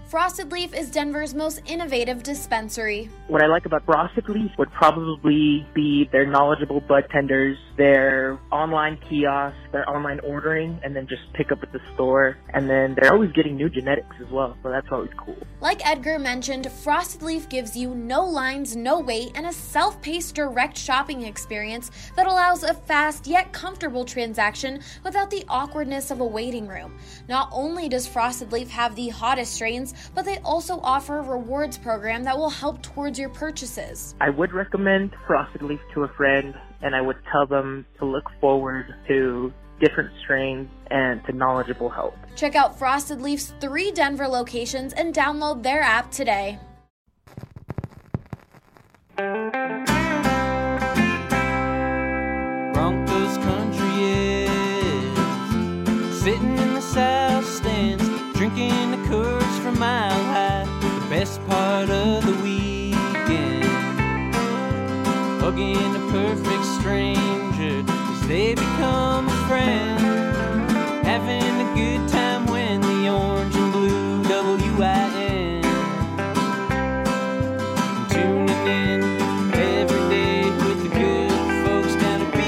Frosted Leaf is Denver's most innovative dispensary. What I like about Frosted Leaf would probably be their knowledgeable bud tenders, their online kiosks, their online ordering, and then just pick up at the store. And then they're always getting new genetics as well, so that's always cool. Like Edgar mentioned, Frosted Leaf gives you no lines, no wait, and a self-paced direct shopping experience that allows a fast yet comfortable transaction without the awkwardness of a waiting room. Not only does Frosted Leaf have the hottest strains, but they also offer a rewards program that will help towards your purchases. I would recommend Frosted Leaf to a friend, and I would tell them to look forward to different strains and to knowledgeable help. Check out Frosted Leaf's 3 Denver locations and download their app today. Broncos country is sitting in the south stands, drinking the Coors from Mile High, the best part of the weekend. Hugging a perfect stranger as they become a friend. Having a good time when the orange and blue WIN. Tuning in every day with the good folks down at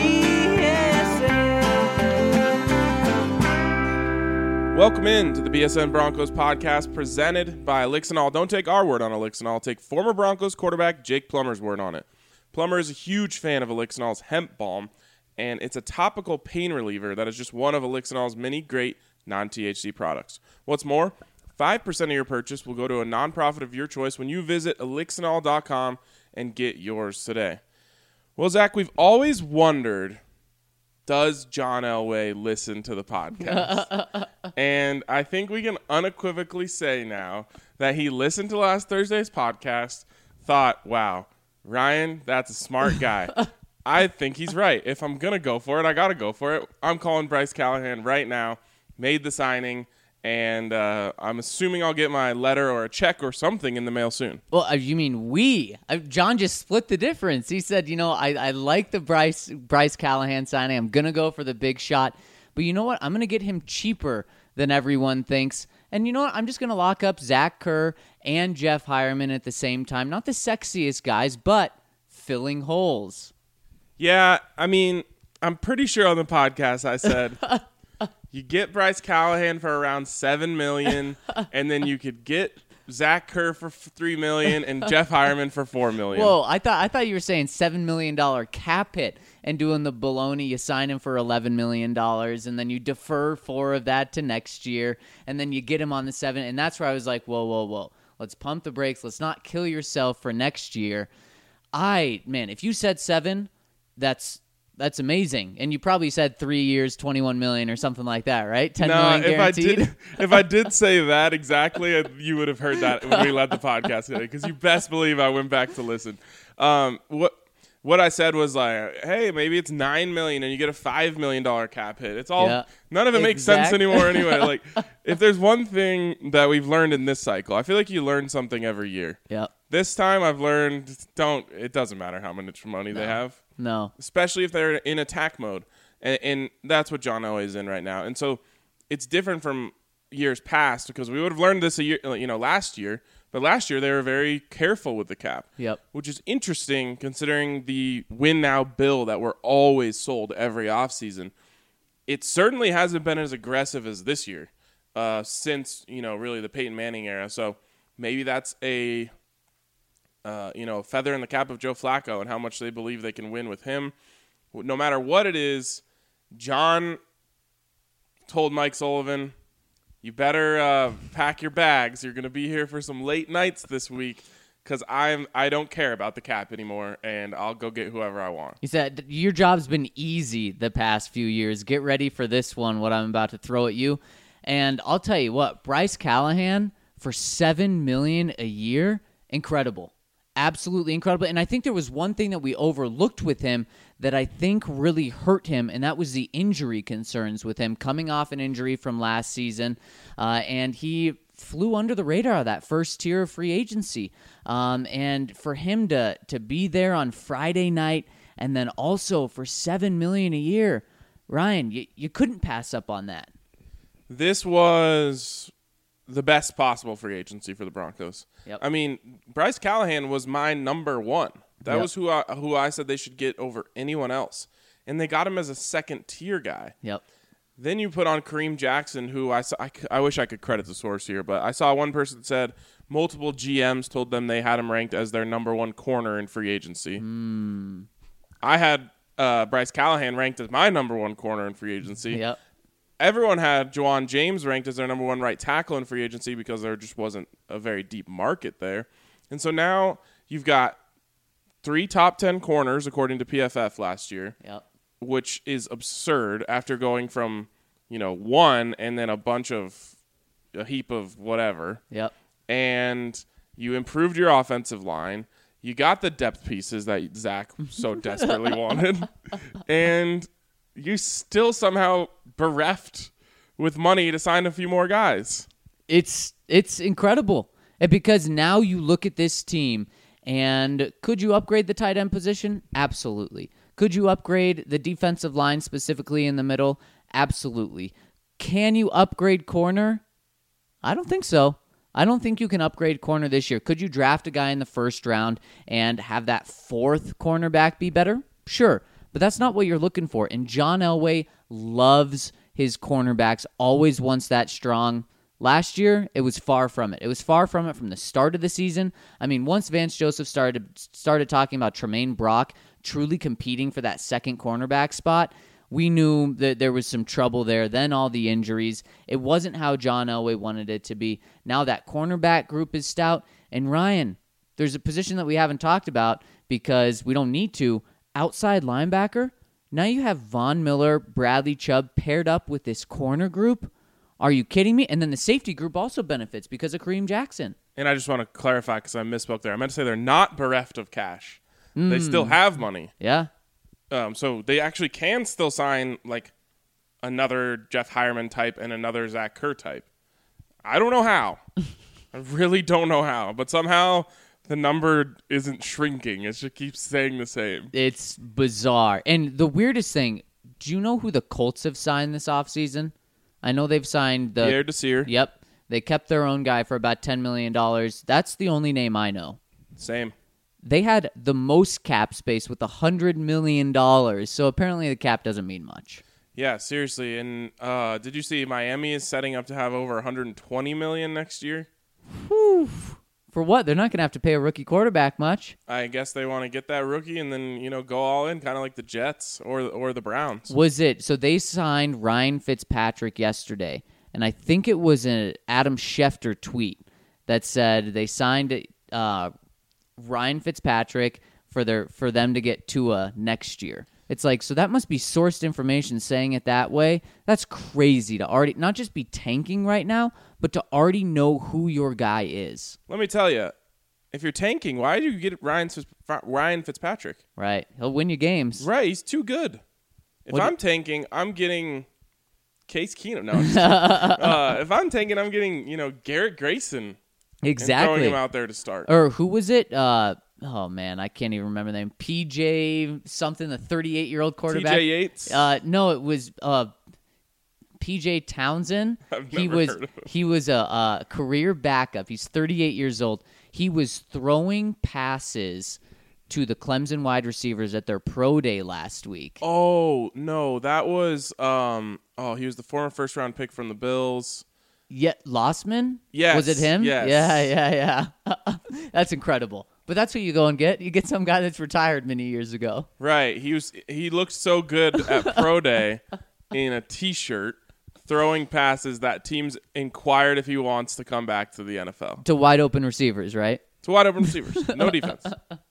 BSN. Welcome in to the BSN Broncos podcast presented by Elixinol. Don't take our word on Elixinol. Take former Broncos quarterback Jake Plummer's word on it. Plummer is a huge fan of Elixinol's hemp balm, and it's a topical pain reliever that is just one of Elixinol's many great non-THC products. What's more, 5% of your purchase will go to a nonprofit of your choice when you visit elixinol.com and get yours today. Well, Zach, we've always wondered, does John Elway listen to the podcast? And I think we can unequivocally say now that he listened to last Thursday's podcast, thought, wow, Ryan, that's a smart guy. I think he's right. If I'm going to go for it, I got to go for it. I'm calling Bryce Callahan right now, made the signing, and I'm assuming I'll get my letter or a check or something in the mail soon. Well, you mean we? John just split the difference. He said, I like the Bryce Callahan signing. I'm going to go for the big shot. But you know what? I'm going to get him cheaper than everyone thinks. And you know what? I'm just going to lock up Zach Kerr and Jeff Hireman at the same time. Not the sexiest guys, but filling holes. Yeah, I mean, I'm pretty sure on the podcast I said you get Bryce Callahan for around $7 million, and then you could get Zach Kerr for $3 million and Jeff Hireman for $4 million. Whoa, I thought you were saying $7 million cap hit and doing the baloney. You sign him for $11 million, and then you defer 4 of that to next year, and then you get him on the 7. And that's where I was like, whoa. Let's pump the brakes. Let's not kill yourself for next year. If you said 7, that's amazing. And you probably said 3 years, $21 million or something like that, right? $10 million guaranteed. If I did say that exactly, you would have heard that when we led the podcast today, because you best believe I went back to listen. What I said was like, hey, maybe it's $9 million and you get a $5 million cap hit. It's all none of it makes sense anymore anyway. Like, if there's one thing that we've learned in this cycle, I feel like you learn something every year. Yeah. This time I've learned it doesn't matter how much money they have. No. Especially if they're in attack mode. And that's what John Elway is in right now. And so it's different from years past, because we would have learned this last year. But last year they were very careful with the cap. Yep. Which is interesting considering the win now bill that we're always sold every offseason. It certainly hasn't been as aggressive as this year since, really the Peyton Manning era. So maybe that's a feather in the cap of Joe Flacco and how much they believe they can win with him. No matter what it is, John told Mike Sullivan, you better pack your bags. You're going to be here for some late nights this week, because I don't care about the cap anymore, and I'll go get whoever I want. He said, your job's been easy the past few years. Get ready for this one, what I'm about to throw at you. And I'll tell you what, Bryce Callahan for $7 million a year, incredible. Absolutely incredible. And I think there was one thing that we overlooked with him that I think really hurt him, and that was the injury concerns with him coming off an injury from last season. And he flew under the radar of that first tier of free agency. And for him to be there on Friday night and then also for $7 million a year, Ryan, you couldn't pass up on that. This was the best possible free agency for the Broncos. Yep. I mean, Bryce Callahan was my number one. That Yep. was who I said they should get over anyone else. And they got him as a second-tier guy. Yep. Then you put on Kareem Jackson, who I wish I could credit the source here, but I saw one person said multiple GMs told them they had him ranked as their number one corner in free agency. I had Bryce Callahan ranked as my number one corner in free agency. Yep. Everyone had Juwan James ranked as their number one right tackle in free agency because there just wasn't a very deep market there. And so now you've got 3 top 10 corners, according to PFF last year, Yep. which is absurd after going from, 1 and then a heap of whatever. Yep. And you improved your offensive line. You got the depth pieces that Zach so desperately wanted. And you still somehow bereft with money to sign a few more guys. It's incredible. And because now you look at this team, and could you upgrade the tight end position? Absolutely. Could you upgrade the defensive line specifically in the middle? Absolutely. Can you upgrade corner? I don't think so. I don't think you can upgrade corner this year. Could you draft a guy in the first round and have that 4th cornerback be better? Sure. But that's not what you're looking for. And John Elway loves his cornerbacks, always wants that strong. Last year, it was far from it. It was far from it from the start of the season. I mean, once Vance Joseph started talking about Tremaine Brock truly competing for that second cornerback spot, we knew that there was some trouble there. Then all the injuries. It wasn't how John Elway wanted it to be. Now that cornerback group is stout. And Ryan, there's a position that we haven't talked about because we don't need to. Outside linebacker. Now you have Von Miller, Bradley Chubb paired up with this corner group. Are you kidding me? And then the safety group also benefits because of Kareem Jackson. And I just want to clarify because I misspoke there. I meant to say they're not bereft of cash. They still have money. Yeah. So they actually can still sign like another Jeff Hireman type and another Zach Kerr type. I don't know how. I really don't know how. But somehow the number isn't shrinking. It just keeps staying the same. It's bizarre. And the weirdest thing, do you know who the Colts have signed this offseason? I know they've signed the... Pierre Desir. Yep. They kept their own guy for about $10 million. That's the only name I know. Same. They had the most cap space with $100 million, so apparently the cap doesn't mean much. Yeah, seriously. And did you see Miami is setting up to have over $120 million next year? Whew. For what? They're not going to have to pay a rookie quarterback much. I guess they want to get that rookie and then, go all in, kind of like the Jets or the Browns. Was it? So they signed Ryan Fitzpatrick yesterday, and I think it was an Adam Schefter tweet that said they signed Ryan Fitzpatrick for them to get Tua next year. It's like, so that must be sourced information saying it that way. That's crazy to already not just be tanking right now, but to already know who your guy is. Let me tell you, if you're tanking, why do you get Ryan Fitzpatrick? Right. He'll win you games. Right, he's too good. If What- I'm tanking, I'm getting Case Keenum. No, if I'm tanking, I'm getting, Garrett Grayson. And Exactly. throwing him out there to start. Or who was it? Oh, man, I can't even remember the name. PJ something, the 38-year-old quarterback. TJ Yates? No, it was PJ Townsend. I've never heard of him. He was a career backup. He's 38 years old. He was throwing passes to the Clemson wide receivers at their pro day last week. Oh, no, that was he was the former first-round pick from the Bills. Yeah, Lossman? Yes, Was it him? yes. Yeah. That's incredible. But that's what you go and get. You get some guy that's retired many years ago. Right. He looked so good at pro day in a T-shirt, throwing passes that teams inquired if he wants to come back to the NFL. To wide open receivers, right? To wide open receivers, no defense.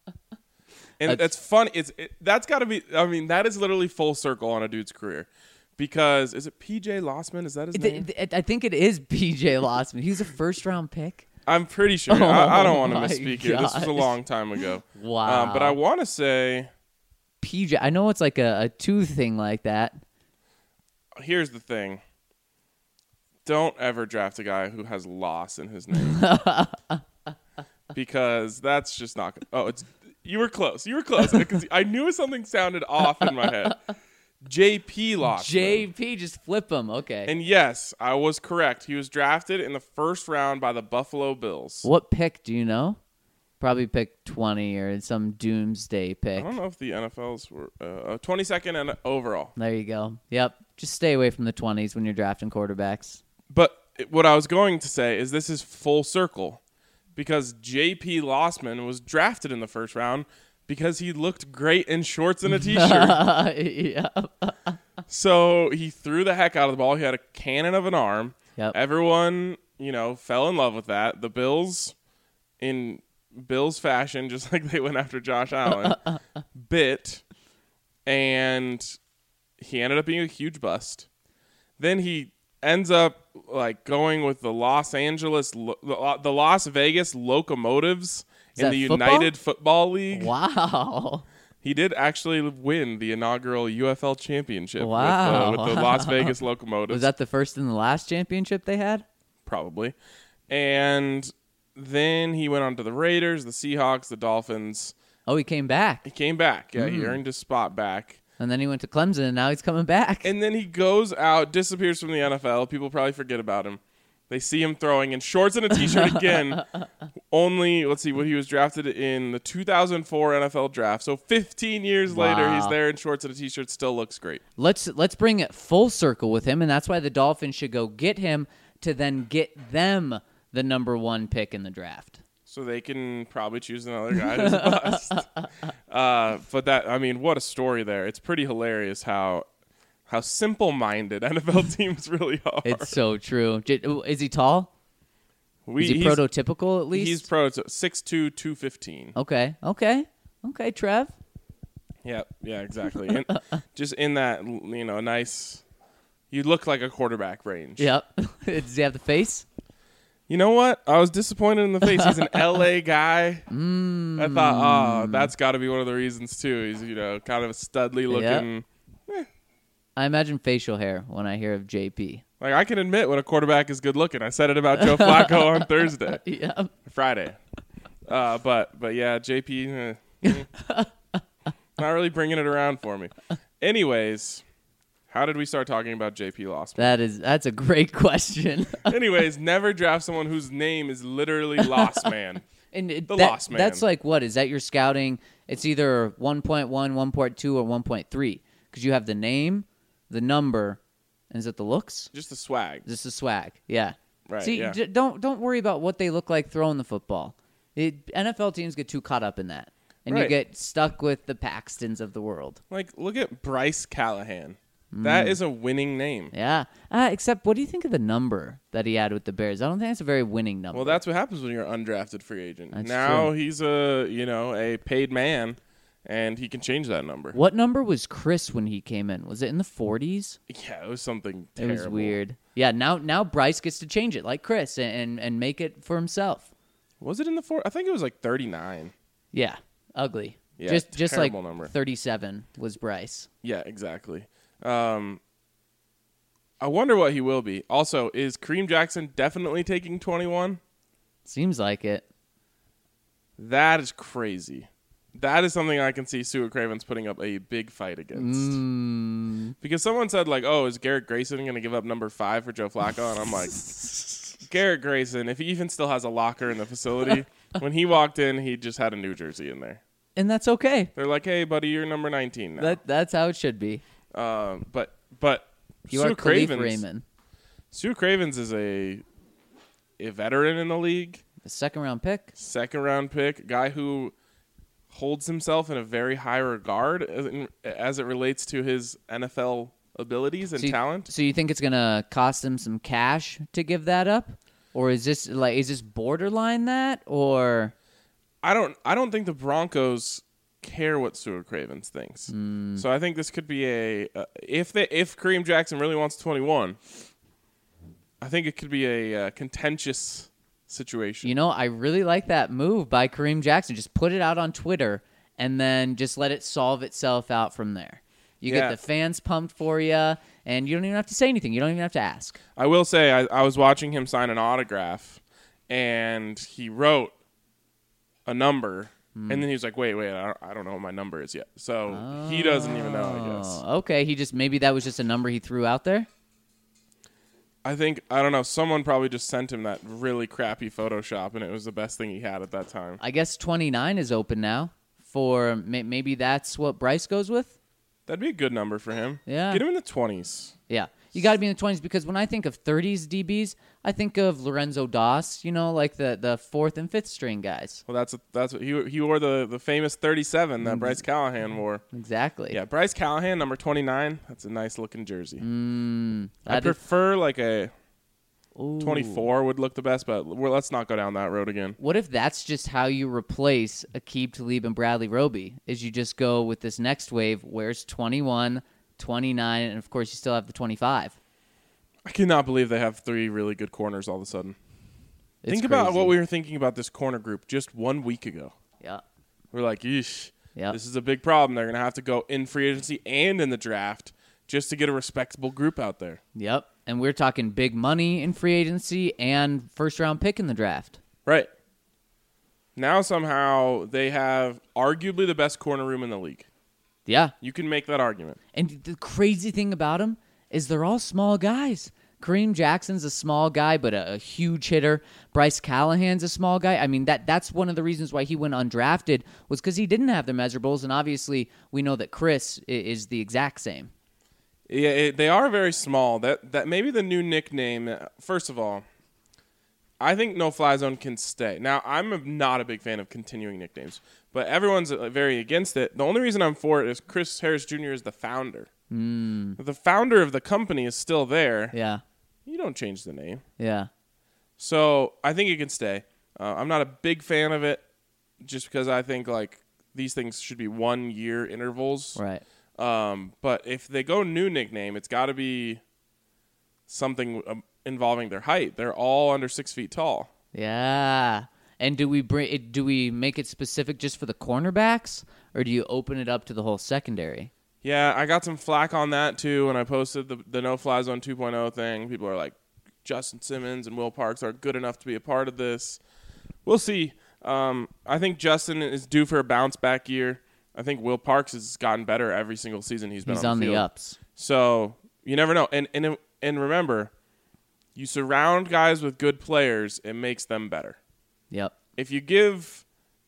And that's fun. That's got to be. I mean, that is literally full circle on a dude's career. Because is it PJ Lossman? Is that his name? I think it is PJ Lossman. He was a first-round pick. I'm pretty sure. I don't want to my misspeak here. This was a gosh. long time ago. Wow. But I want to say, PJ. I know it's like a two thing like that. here's the thing. Don't ever draft a guy who has loss in his name. Because that's just not good. Oh, you were close. You were close. Because I knew something sounded off in my head. JP Lossman. JP, just flip him. Okay. And yes, I was correct. He was drafted in the first round by the Buffalo Bills. What pick do you know? Probably pick 20 or some doomsday I pick. don't know if the NFLs were 22nd and overall. There you go. Yep. Just stay away from the 20s when you're drafting quarterbacks. But what I was going to say is this is full circle because JP Lossman was drafted in the first round because he looked great in shorts and a t-shirt. Yeah. So he threw the heck out of the ball. He had a cannon of an arm. Yep. Everyone, fell in love with that. The Bills, in Bills fashion, just like they went after Josh Allen, bit, and he ended up being a huge bust. Then he ends up going with the Las Vegas Locomotives in the football? United Football League. Wow. He did actually win the inaugural UFL championship Wow. with the Las Vegas Locomotives. Was that the first and the last championship they had? Probably. And then he went on to the Raiders, the Seahawks, the Dolphins. Oh, he came back. He came back. Yeah, he earned his spot back. And then he went to Clemson, and now he's coming back. And then he goes out, disappears from the NFL. People probably forget about him. They see him throwing in shorts and a t-shirt again. Only, let's see, what he was drafted in the 2004 NFL draft. So 15 years later, he's there in shorts and a t-shirt. Still looks great. Let's bring it full circle with him, and that's why the Dolphins should go get him to then get them the number 1 pick in the draft. So they can probably choose another guy to bust. But what a story there. It's pretty hilarious how simple-minded NFL teams really are. It's so true. Is he tall? Is he prototypical at least? He's 6'2", 215. Okay, Trev. Yeah, exactly. And just in that, nice, you look like a quarterback range. Yep. Does he have the face? You know what? I was disappointed in the face. He's an LA guy. I thought, that's got to be one of the reasons too. He's, kind of a studly looking. Yep. I imagine facial hair when I hear of JP. Like, I can admit when a quarterback is good looking. I said it about Joe Flacco on Thursday. Yeah. Friday. But yeah, JP, not really bringing it around for me. Anyways, how did we start talking about JP Lossman? That's a great question. Anyways, never draft someone whose name is literally Lost Man. And Lost Man. That's like what? Is that your scouting? It's either 1.1, 1.2, or 1.3. Because you have the name, the number, and is it the looks? Just the swag. Just the swag, yeah. Right, See, yeah. Don't worry about what they look like throwing the football. NFL teams get too caught up in that. And you Right. get stuck with the Paxtons of the world. Like, look at Bryce Callahan. That is a winning name. Yeah. Except, what do you think of the number that he had with the Bears? I don't think it's a very winning number. Well, that's what happens when you're an undrafted free agent. That's now true. he's a paid man, and he can change that number. What number was Chris when he came in? Was it in the 40s? Yeah, it was something It terrible. was weird. Yeah, now Bryce gets to change it like Chris and make it for himself. Was it in the 40s? I think it was like 39. Yeah, ugly. Yeah, just like terrible number. 37 was Bryce. Yeah, exactly. I wonder what he will be. Also, is Kareem Jackson definitely taking 21? Seems like it. That is crazy. That is something I can see Stuart Cravens putting up a big fight against. Because someone said, is Garrett Grayson going to give up number 5 for Joe Flacco? And I'm like, Garrett Grayson, if he even still has a locker in the facility, when he walked in, he just had a New Jersey in there. And that's okay. They're like, hey, buddy, you're number 19 now. That's how it should be. But You Stuart are Khalif Cravens, Raymond. Stuart Cravens is a veteran in the league, The second-round pick. second-round pick, guy who holds himself in a very high regard as it relates to his NFL abilities and talent. So you think it's going to cost him some cash to give that up? Or is this borderline that? Or I don't think the Broncos care what Stuart Cravens thinks. So I think this could be if Kareem Jackson really wants 21, I think it could be a contentious situation. You know, I really like that move by Kareem Jackson. Just put it out on Twitter and then just let it solve itself out from there. You get the fans pumped for you, and you don't even have to say anything. You don't even have to ask. I will say I was watching him sign an autograph, and he wrote a number And then he was like, wait, I don't know what my number is yet. So he doesn't even know, I guess. Okay, maybe that was just a number he threw out there? I don't know, someone probably just sent him that really crappy Photoshop, and it was the best thing he had at that time. I guess 29 is open now. For maybe that's what Bryce goes with? That'd be a good number for him. Yeah. Get him in the 20s. Yeah. You got to be in the 20s because when I think of 30s DBs, I think of Lorenzo Doss, like the fourth and fifth string guys. Well, that's what he wore the famous 37 that Bryce Callahan wore. Exactly. Yeah, Bryce Callahan, number 29. That's a nice looking jersey. I prefer like a 24 would look the best, but let's not go down that road again. What if that's just how you replace Aqib Talib and Bradley Roby? Is you just go with this next wave, where's 21, 29, and of course you still have the 25. I cannot believe they have 3 really good corners all of a sudden. Think Crazy. about what we were thinking about this corner group just 1 week ago. Yeah. We're like, yeesh, Yep. This is a big problem. They're going to have to go in free agency and in the draft just to get a respectable group out there. Yep. And we're talking big money in free agency and first-round pick in the draft. Right. Now somehow they have arguably the best corner room in the league. Yeah. You can make that argument. And the crazy thing about them is they're all small guys. Kareem Jackson's a small guy, but a huge hitter. Bryce Callahan's a small guy. I mean, that's one of the reasons why he went undrafted was because he didn't have the measurables, and obviously we know that Chris is the exact same. Yeah, they are very small. That maybe the new nickname. First of all, I think No Fly Zone can stay. Now, I'm not a big fan of continuing nicknames, but everyone's very against it. The only reason I'm for it is Chris Harris Jr. is the founder. The founder of the company is still there. Yeah. You don't change the name. Yeah. So I think it can stay. I'm not a big fan of it just because I think like these things should be 1 year intervals. Right. But if they go new nickname, it's got to be something involving their height. They're all under 6 feet tall. Yeah. And do we make it specific just for the cornerbacks, or do you open it up to the whole secondary? Yeah, I got some flack on that too when I posted the No Fly Zone 2.0 thing. People are like, Justin Simmons and Will Parks are good enough to be a part of this. We'll see. I think Justin is due for a bounce back year. I think Will Parks has gotten better every single season he's been on the field. The ups. So you never know. And remember, you surround guys with good players, it makes them better. Yep. If you give,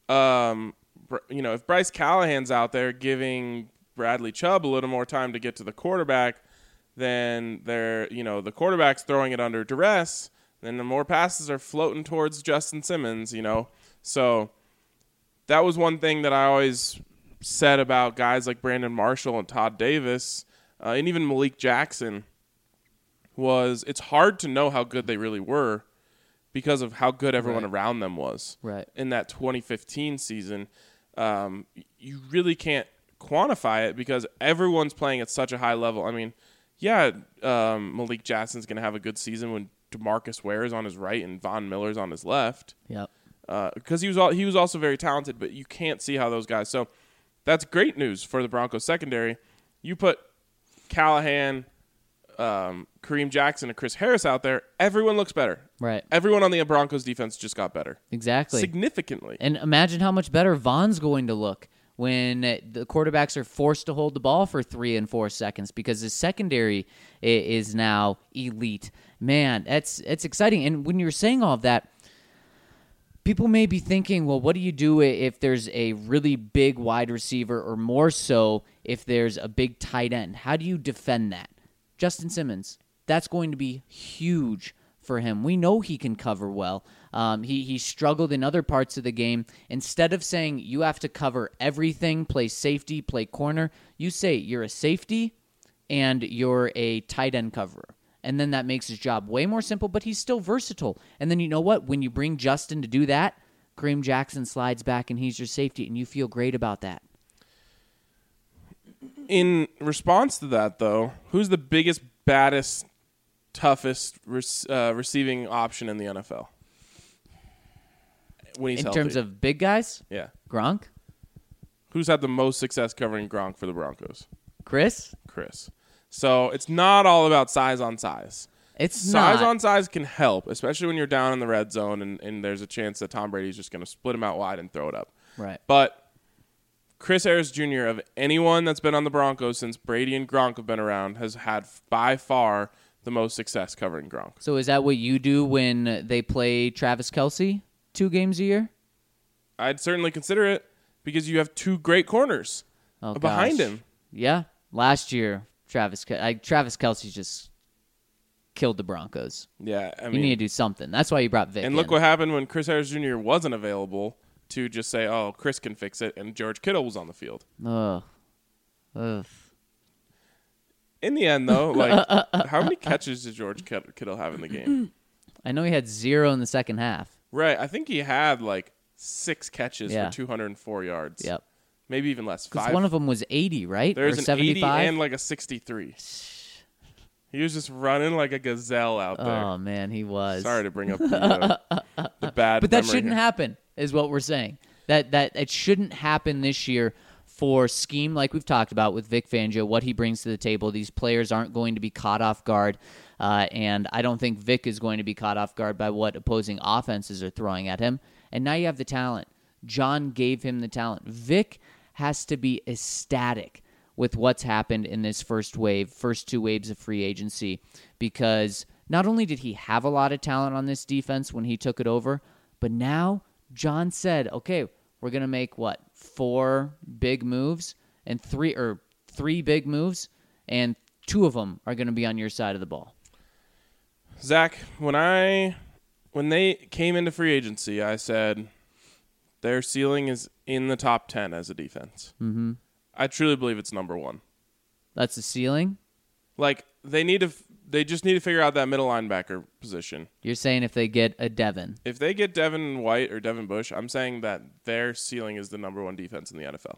if Bryce Callahan's out there giving Bradley Chubb a little more time to get to the quarterback, then the quarterback's throwing it under duress, then the more passes are floating towards Justin Simmons, So that was one thing that I always said about guys like Brandon Marshall and Todd Davis, and even Malik Jackson, was it's hard to know how good they really were because of how good everyone around them was. Right. In that 2015 season, you really can't quantify it because everyone's playing at such a high level. I mean, Malik Jackson's going to have a good season when DeMarcus Ware is on his right and Von Miller's on his left. Yep. Because he was also very talented, but you can't see how those guys. So that's great news for the Broncos secondary. You put Callahan, Kareem Jackson, and Chris Harris out there, everyone looks better. Right. Everyone on the Broncos defense just got better. Exactly. Significantly. And imagine how much better Von's going to look when the quarterbacks are forced to hold the ball for 3 and 4 seconds because his secondary is now elite. Man, it's exciting. And when you're saying all of that, people may be thinking, well, what do you do if there's a really big wide receiver or more so if there's a big tight end? How do you defend that? Justin Simmons, that's going to be huge for him. We know he can cover well. He struggled in other parts of the game. Instead of saying you have to cover everything, play safety, play corner, you say you're a safety and you're a tight end coverer. And then that makes his job way more simple, but he's still versatile. And then you know what? When you bring Justin to do that, Kareem Jackson slides back and he's your safety, and you feel great about that. In response to that, though, who's the biggest, baddest, toughest receiving option in the NFL? When he's in healthy? Terms of big guys? Yeah. Gronk? Who's had the most success covering Gronk for the Broncos? Chris? So it's not all about size on size. It's size not. on size can help, especially when you're down in the red zone and there's a chance that Tom Brady's just going to split him out wide and throw it up. Right. But Chris Harris Jr., of anyone that's been on the Broncos since Brady and Gronk have been around, has had by far the most success covering Gronk. So is that what you do when they play Travis Kelce 2 games a year? I'd certainly consider it because you have 2 great corners behind gosh. him. Yeah. Last year, Travis Kelce just killed the Broncos. Yeah, I You mean, need to do something. That's why you brought Vic and in. look what happened when Chris Harris Jr. wasn't available to just say, "Oh, Chris can fix it," and George Kittle was on the field. Ugh. In the end, though, like, how many catches did George Kittle have in the game? I know he had 0 in the second half. Right, I think he had like 6 catches Yeah. for 204 yards. Yep. Maybe even less. Because 5. one of them was 80, right? There's or an 75? 80 and like a 63. He was just running like a gazelle out there. Oh, man, he was. Sorry to bring up the bad. But that memory shouldn't here. happen, is what we're saying. That it shouldn't happen this year for scheme like we've talked about with Vic Fangio, what he brings to the table. These players aren't going to be caught off guard, and I don't think Vic is going to be caught off guard by what opposing offenses are throwing at him. And now you have the talent. John gave him the talent. Vic has to be ecstatic with what's happened in this first 2 waves of free agency, because not only did he have a lot of talent on this defense when he took it over, but now John said, okay, we're going to make 4 big moves and 3 big moves, and 2 of them are going to be on your side of the ball. Zach, when they came into free agency, I said their ceiling is in the top 10 as a defense. Mm-hmm. I truly believe it's number 1. That's the ceiling? Like, they just need to figure out that middle linebacker position. You're saying if they get a Devin. If they get Devin White or Devin Bush, I'm saying that their ceiling is the number 1 defense in the NFL.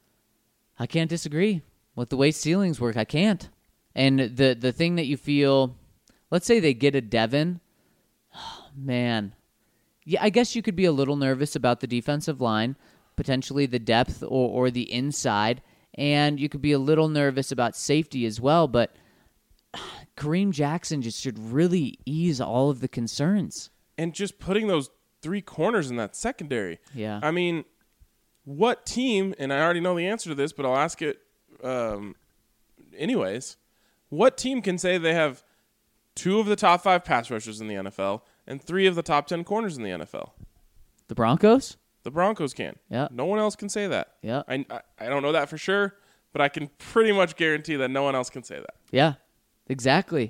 I can't disagree. With the way ceilings work, I can't. And the thing that you feel, let's say they get a Devin, oh, man. Yeah, I guess you could be a little nervous about the defensive line, potentially the depth or the inside, and you could be a little nervous about safety as well, but Kareem Jackson just should really ease all of the concerns. And just putting those 3 corners in that secondary. Yeah. I mean, what team, and I already know the answer to this, but I'll ask it anyways, what team can say they have 2 of the top 5 pass rushers in the NFL and 3 of the top 10 corners in the NFL? The Broncos? The Broncos can. Yeah. No one else can say that. Yeah. I don't know that for sure, but I can pretty much guarantee that no one else can say that. Yeah, exactly.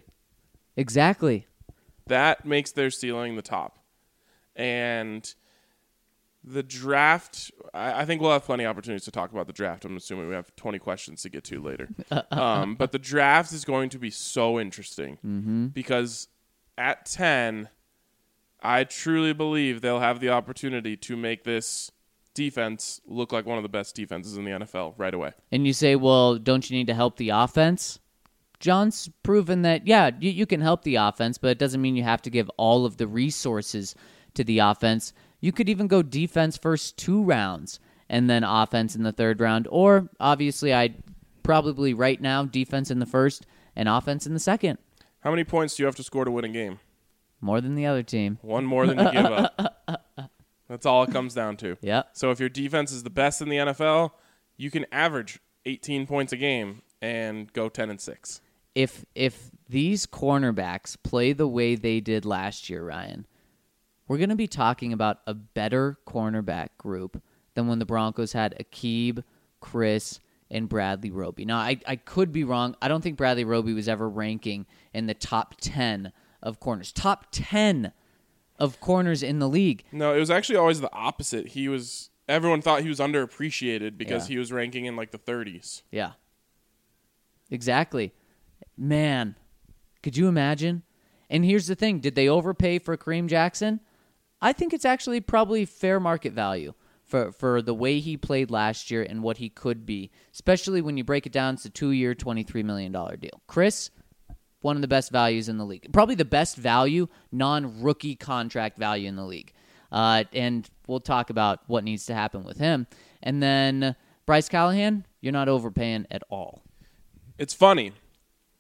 That makes their ceiling the top. And the draft, I think we'll have plenty of opportunities to talk about the draft. I'm assuming we have 20 questions to get to later. But the draft is going to be so interesting because at 10, I truly believe they'll have the opportunity to make this defense look like one of the best defenses in the NFL right away. And you say, well, don't you need to help the offense? John's proven that, yeah, you can help the offense, but it doesn't mean you have to give all of the resources to the offense. You could even go defense first 2 rounds and then offense in the 3rd round. Or, obviously, I'd probably right now defense in the 1st and offense in the 2nd. How many points do you have to score to win a game? More than the other team. 1 more than you give up. That's all it comes down to. Yeah. So if your defense is the best in the NFL, you can average 18 points a game and go 10-6. If these cornerbacks play the way they did last year, Ryan, we're going to be talking about a better cornerback group than when the Broncos had Aqib, Chris, and Bradley Roby. Now, I could be wrong. I don't think Bradley Roby was ever ranking in the top 10 of corners. Top 10 of corners in the league. No, it was actually always the opposite. Everyone thought he was underappreciated because he was ranking in like the 30s. Yeah. Exactly. Man, could you imagine? And here's the thing. Did they overpay for Kareem Jackson? I think it's actually probably fair market value for the way he played last year and what he could be, especially when you break it down. It's a 2-year, $23 million deal. Chris, one of the best values in the league. Probably the best value, non-rookie contract value in the league. And we'll talk about what needs to happen with him. And then Bryce Callahan, you're not overpaying at all. It's funny.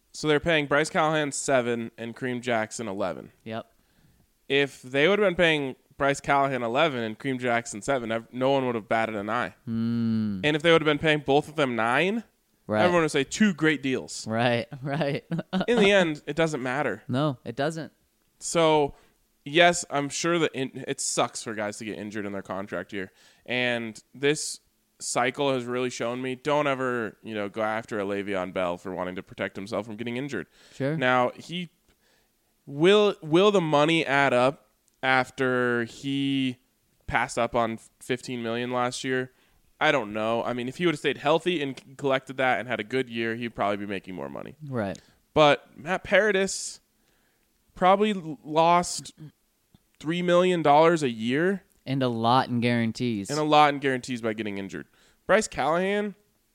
So they're paying Bryce Callahan 7 and Kareem Jackson 11. Yep. If they would have been paying Bryce Callahan 11 and Kareem Jackson 7, no one would have batted an eye. And if they would have been paying both of them 9, Right. everyone would say 2 great deals. Right. In the end, it doesn't matter. No, it doesn't. So, yes, I'm sure that it sucks for guys to get injured in their contract year. And this cycle has really shown me, don't ever, go after a Le'Veon Bell for wanting to protect himself from getting injured. Sure. Now, will the money add up after he passed up on $15 million last year? I don't know. I mean, if he would have stayed healthy and collected that and had a good year, he'd probably be making more money. Right. But Matt Paradis probably lost $3 million a year. And a lot in guarantees. And a lot in guarantees by getting injured. Bryce Callahan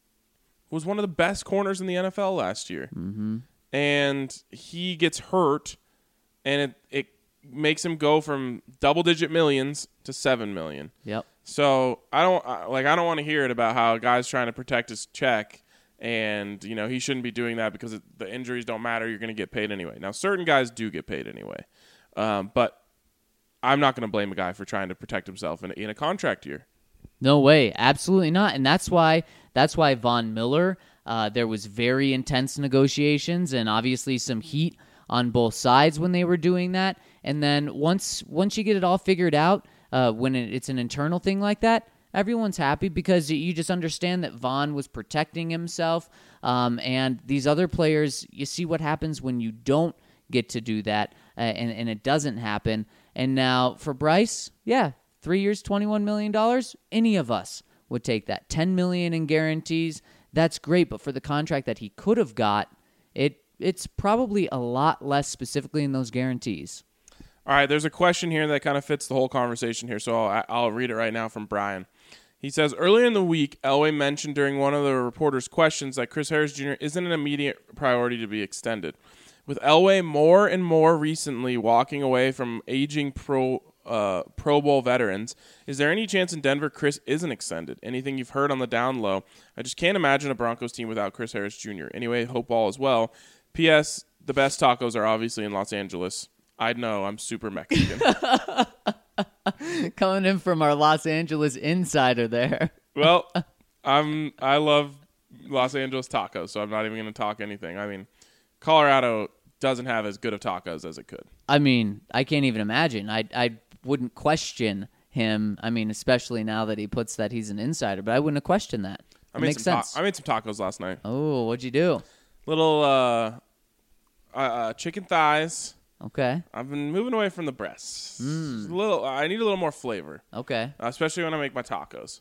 was one of the best corners in the NFL last year. Mm-hmm. And he gets hurt, and it makes him go from double-digit millions to $7 million. Yep. So I don't want to hear it about how a guy's trying to protect his check, and he shouldn't be doing that because the injuries don't matter. You're going to get paid anyway. Now, certain guys do get paid anyway, but I'm not going to blame a guy for trying to protect himself in a contract year. No way, absolutely not. And that's why Von Miller. There was very intense negotiations and obviously some heat on both sides when they were doing that. And then once you get it all figured out, when it's an internal thing like that, everyone's happy because you just understand that Von was protecting himself. And these other players, you see what happens when you don't get to do that, and it doesn't happen. And now for Bryce, 3 years, $21 million, any of us would take that. $10 million in guarantees, that's great. But for the contract that he could have got, it's probably a lot less specifically in those guarantees. All right, there's a question here that kind of fits the whole conversation here, so I'll read it right now from Brian. He says, earlier in the week, Elway mentioned during one of the reporters' questions that Chris Harris Jr. isn't an immediate priority to be extended. With Elway more and more recently walking away from aging Pro Bowl veterans, is there any chance in Denver Chris isn't extended? Anything you've heard on the down low? I just can't imagine a Broncos team without Chris Harris Jr. Anyway, hope all is well. P.S. The best tacos are obviously in Los Angeles. I know, I'm super Mexican. Coming in from our Los Angeles insider there. Well, I love Los Angeles tacos, so I'm not even going to talk anything. I mean, Colorado doesn't have as good of tacos as it could. I mean, I can't even imagine. I wouldn't question him. I mean, especially now that he puts that he's an insider, but I wouldn't have questioned that. It makes sense. I made some tacos last night. Oh, what'd you do? Little chicken thighs. Okay. I've been moving away from the breasts. I need a little more flavor. Okay. Especially when I make my tacos.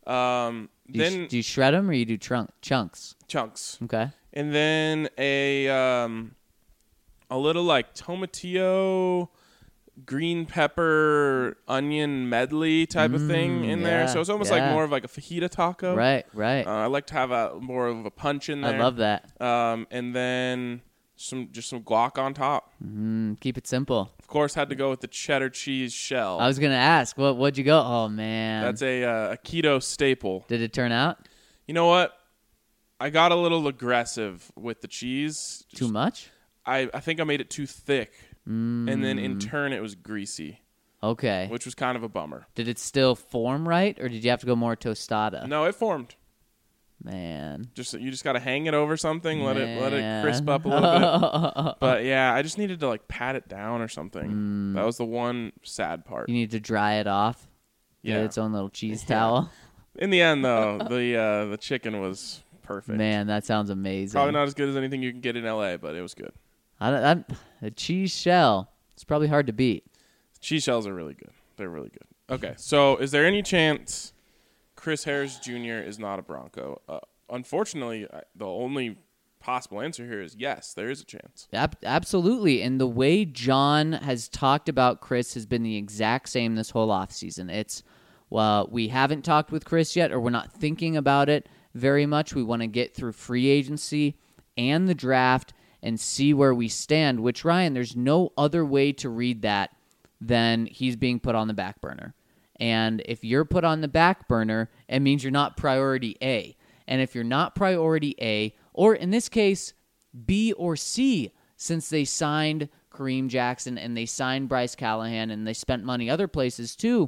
Do you shred them or you do chunks? Chunks. Okay. And then a little like tomatillo, green pepper, onion medley type of thing in there. So it's almost like more of like a fajita taco. Right. I like to have more of a punch in there. I love that. And then some guac on top. Keep it simple. Of course, had to go with the cheddar cheese shell. I was gonna ask, what'd you go? Oh man, that's a keto staple. Did it turn out? You know what? I got a little aggressive with the cheese. Too much? I think I made it too thick, and then in turn it was greasy. Okay. Which was kind of a bummer. Did it still form right, or did you have to go more tostada? No, it formed. Man, you just got to hang it over something, let it crisp up a little bit. But yeah, I just needed to like pat it down or something. That was the one sad part. You need to dry it off. Yeah, get its own little cheese towel. In the end, though, the chicken was perfect. Man, that sounds amazing. Probably not as good as anything you can get in LA, but it was good. The cheese shell, it's probably hard to beat. Cheese shells are really good. They're really good. Okay, so is there any chance Chris Harris Jr. is not a Bronco? Unfortunately, the only possible answer here is yes, there is a chance. Absolutely. And the way John has talked about Chris has been the exact same this whole offseason. It's, well, we haven't talked with Chris yet, or we're not thinking about it very much. We want to get through free agency and the draft and see where we stand, which, Ryan, there's no other way to read that than he's being put on the back burner. And if you're put on the back burner, it means you're not priority A. And if you're not priority A, or in this case, B or C since they signed Kareem Jackson and they signed Bryce Callahan and they spent money other places too,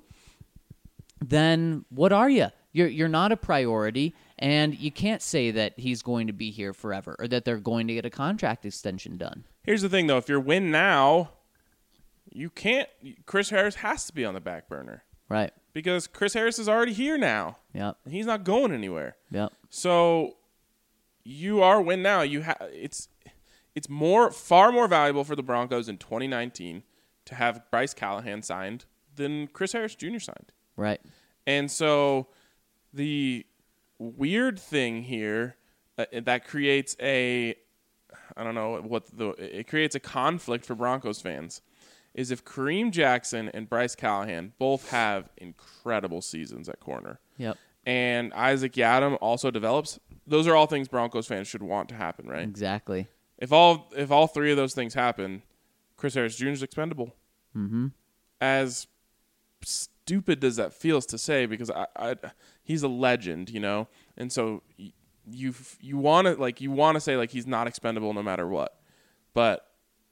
then what are you? You're not a priority, and you can't say that he's going to be here forever or that they're going to get a contract extension done. Here's the thing, though. If you're win now, you can't. Chris Harris has to be on the back burner. Right. Because Chris Harris is already here now. Yep. He's not going anywhere. Yep. So you are win now. It's far more valuable for the Broncos in 2019 to have Bryce Callahan signed than Chris Harris Jr. signed. Right. And so the weird thing here that creates it creates a conflict for Broncos fans is if Kareem Jackson and Bryce Callahan both have incredible seasons at corner. Yep. And Isaac Yiadom also develops, those are all things Broncos fans should want to happen, right? Exactly. If all three of those things happen, Chris Harris Jr. is expendable. Mm-hmm. As stupid as that feels to say, because he's a legend, you know, and so you want to say like he's not expendable no matter what, but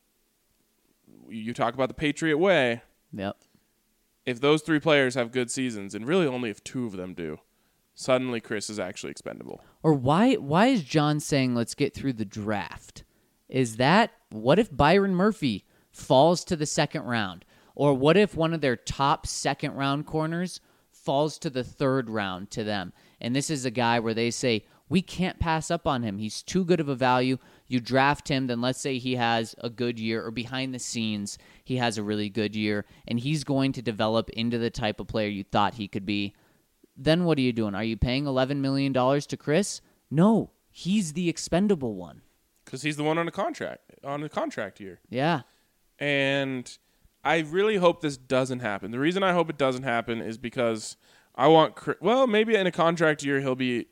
you talk about the Patriot way. Yep. If those three players have good seasons, and really only if two of them do, suddenly Chris is actually expendable. Or why is John saying let's get through the draft? Is that what if Byron Murphy falls to the second round? Or what if one of their top second round corners falls to the third round to them? And this is a guy where they say, we can't pass up on him. He's too good of a value. You draft him, then let's say he has a good year, or behind the scenes, he has a really good year, and he's going to develop into the type of player you thought he could be. Then what are you doing? Are you paying $11 million to Chris? No, he's the expendable one. Because he's the one on a contract year. Yeah. And I really hope this doesn't happen. The reason I hope it doesn't happen is because I want maybe in a contract year he'll be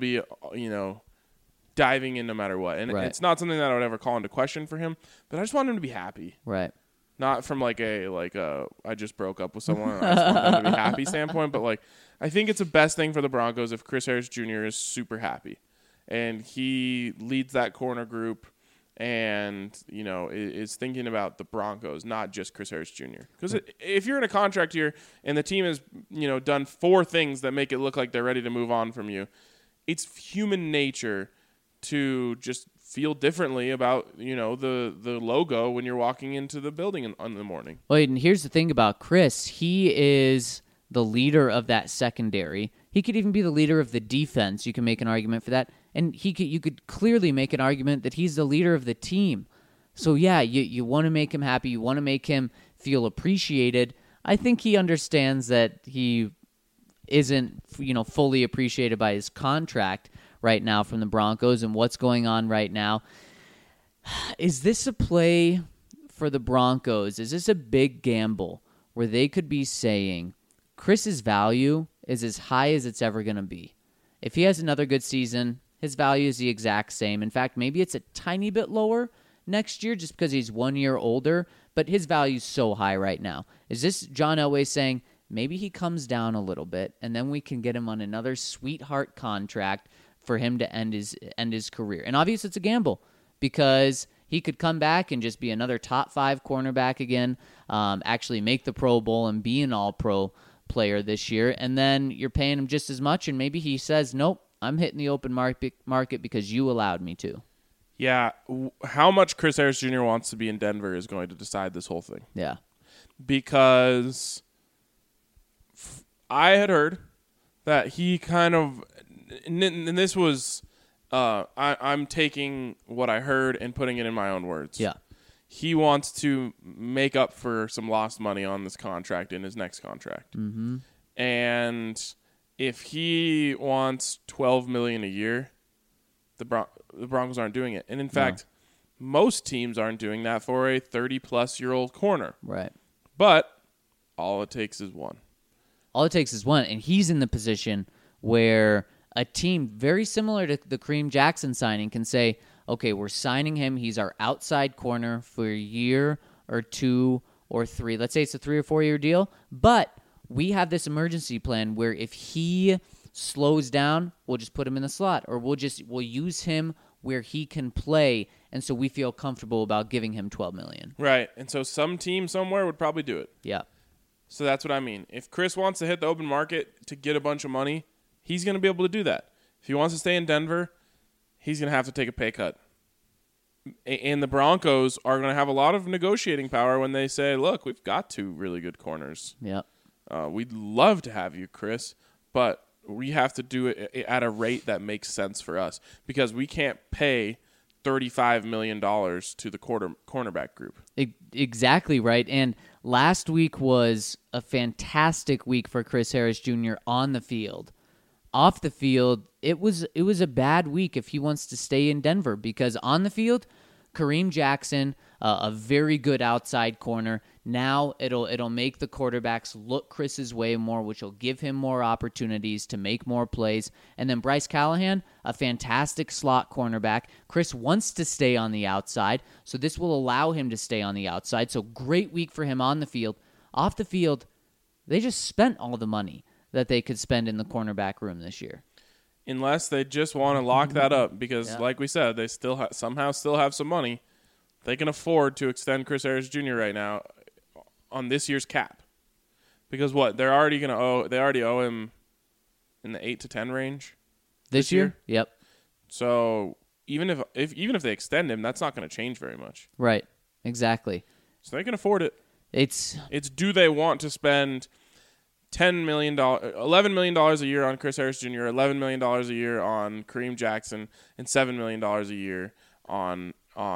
diving in no matter what. And right. It's not something that I would ever call into question for him, but I just want him to be happy. Right. Not from I just broke up with someone and I just want them to be happy standpoint, but I think it's the best thing for the Broncos if Chris Harris Jr. is super happy and he leads that corner group and, is thinking about the Broncos, not just Chris Harris Jr. Because if you're in a contract year and the team has, done four things that make it look like they're ready to move on from you, it's human nature to just feel differently about, the logo when you're walking into the building in the morning. Well, and here's the thing about Chris. He is the leader of that secondary. He could even be the leader of the defense. You can make an argument for that. And you could clearly make an argument that he's the leader of the team. So, yeah, you want to make him happy. You want to make him feel appreciated. I think he understands that he isn't, fully appreciated by his contract right now from the Broncos and what's going on right now. Is this a play for the Broncos? Is this a big gamble where they could be saying Chris's value is as high as it's ever going to be? If he has another good season, his value is the exact same. In fact, maybe it's a tiny bit lower next year just because he's 1 year older, but his value is so high right now. Is this John Elway saying maybe he comes down a little bit and then we can get him on another sweetheart contract for him to end his career? And obviously it's a gamble because he could come back and just be another top 5 cornerback again, actually make the Pro Bowl and be an all-pro player this year, and then you're paying him just as much, and maybe he says, nope, I'm hitting the open market because you allowed me to. Yeah, how much Chris Harris Jr. wants to be in Denver is going to decide this whole thing. Yeah. Because I had heard that he kind of, and this was, I'm taking what I heard and putting it in my own words. Yeah. He wants to make up for some lost money on this contract in his next contract. Mm-hmm. And if he wants $12 million a year, the Broncos aren't doing it. And in fact, most teams aren't doing that for a 30-plus-year-old corner. Right. But all it takes is one. All it takes is one, and he's in the position where a team very similar to the Kareem Jackson signing can say, okay, we're signing him. He's our outside corner for a year or 2 or 3. Let's say it's a 3 or 4 year deal, but we have this emergency plan where if he slows down, we'll just put him in the slot, or we'll use him where he can play, and so we feel comfortable about giving him $12 million. Right, and so some team somewhere would probably do it. Yeah. So that's what I mean. If Chris wants to hit the open market to get a bunch of money, he's going to be able to do that. If he wants to stay in Denver, he's going to have to take a pay cut. And the Broncos are going to have a lot of negotiating power when they say, look, we've got 2 really good corners. Yeah. We'd love to have you, Chris, but we have to do it at a rate that makes sense for us because we can't pay $35 million to the cornerback group. Exactly right. And last week was a fantastic week for Chris Harris Jr. on the field. Off the field, it was a bad week if he wants to stay in Denver because on the field, Kareem Jackson, a very good outside corner. Now it'll make the quarterbacks look Chris's way more, which will give him more opportunities to make more plays. And then Bryce Callahan, a fantastic slot cornerback. Chris wants to stay on the outside, so this will allow him to stay on the outside. So great week for him on the field. Off the field, they just spent all the money that they could spend in the cornerback room this year. Unless they just want to lock that up because, like we said, they still somehow still have some money. They can afford to extend Chris Harris Jr. right now on this year's cap. Because what? They already owe him in the 8 to 10 range this year? Yep. So even if they extend him, that's not going to change very much. Right. Exactly. So they can afford it. It's do they want to spend $11 million a year on Chris Harris Jr., $11 million a year on Kareem Jackson, and $7 million a year on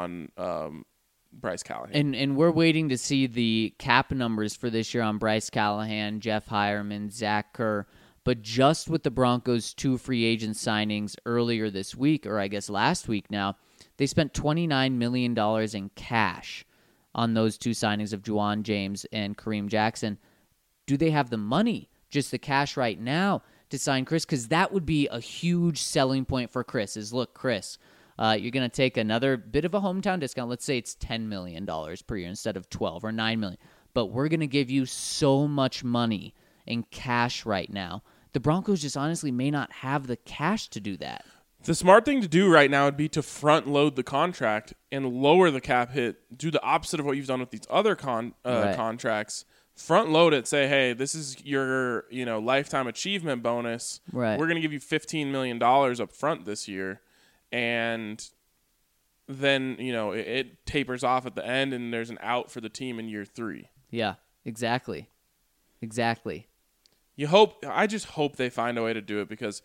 Bryce Callahan. And we're waiting to see the cap numbers for this year on Bryce Callahan, Jeff Hireman, Zach Kerr. But just with the Broncos' 2 free agent signings earlier this week, or I guess last week now, they spent $29 million in cash on those 2 signings of Juwan James and Kareem Jackson. Do they have the money, just the cash right now, to sign Chris? Because that would be a huge selling point for Chris is, look, Chris, you're going to take another bit of a hometown discount. Let's say it's $10 million per year instead of $12 or $9 million. But we're going to give you so much money in cash right now. The Broncos just honestly may not have the cash to do that. The smart thing to do right now would be to front load the contract and lower the cap hit. Do the opposite of what you've done with these other contracts. Front load it. Say, hey, this is your lifetime achievement bonus. Right. We're going to give you $15 million up front this year, and then it tapers off at the end, and there's an out for the team in year 3. Yeah, exactly. I just hope they find a way to do it because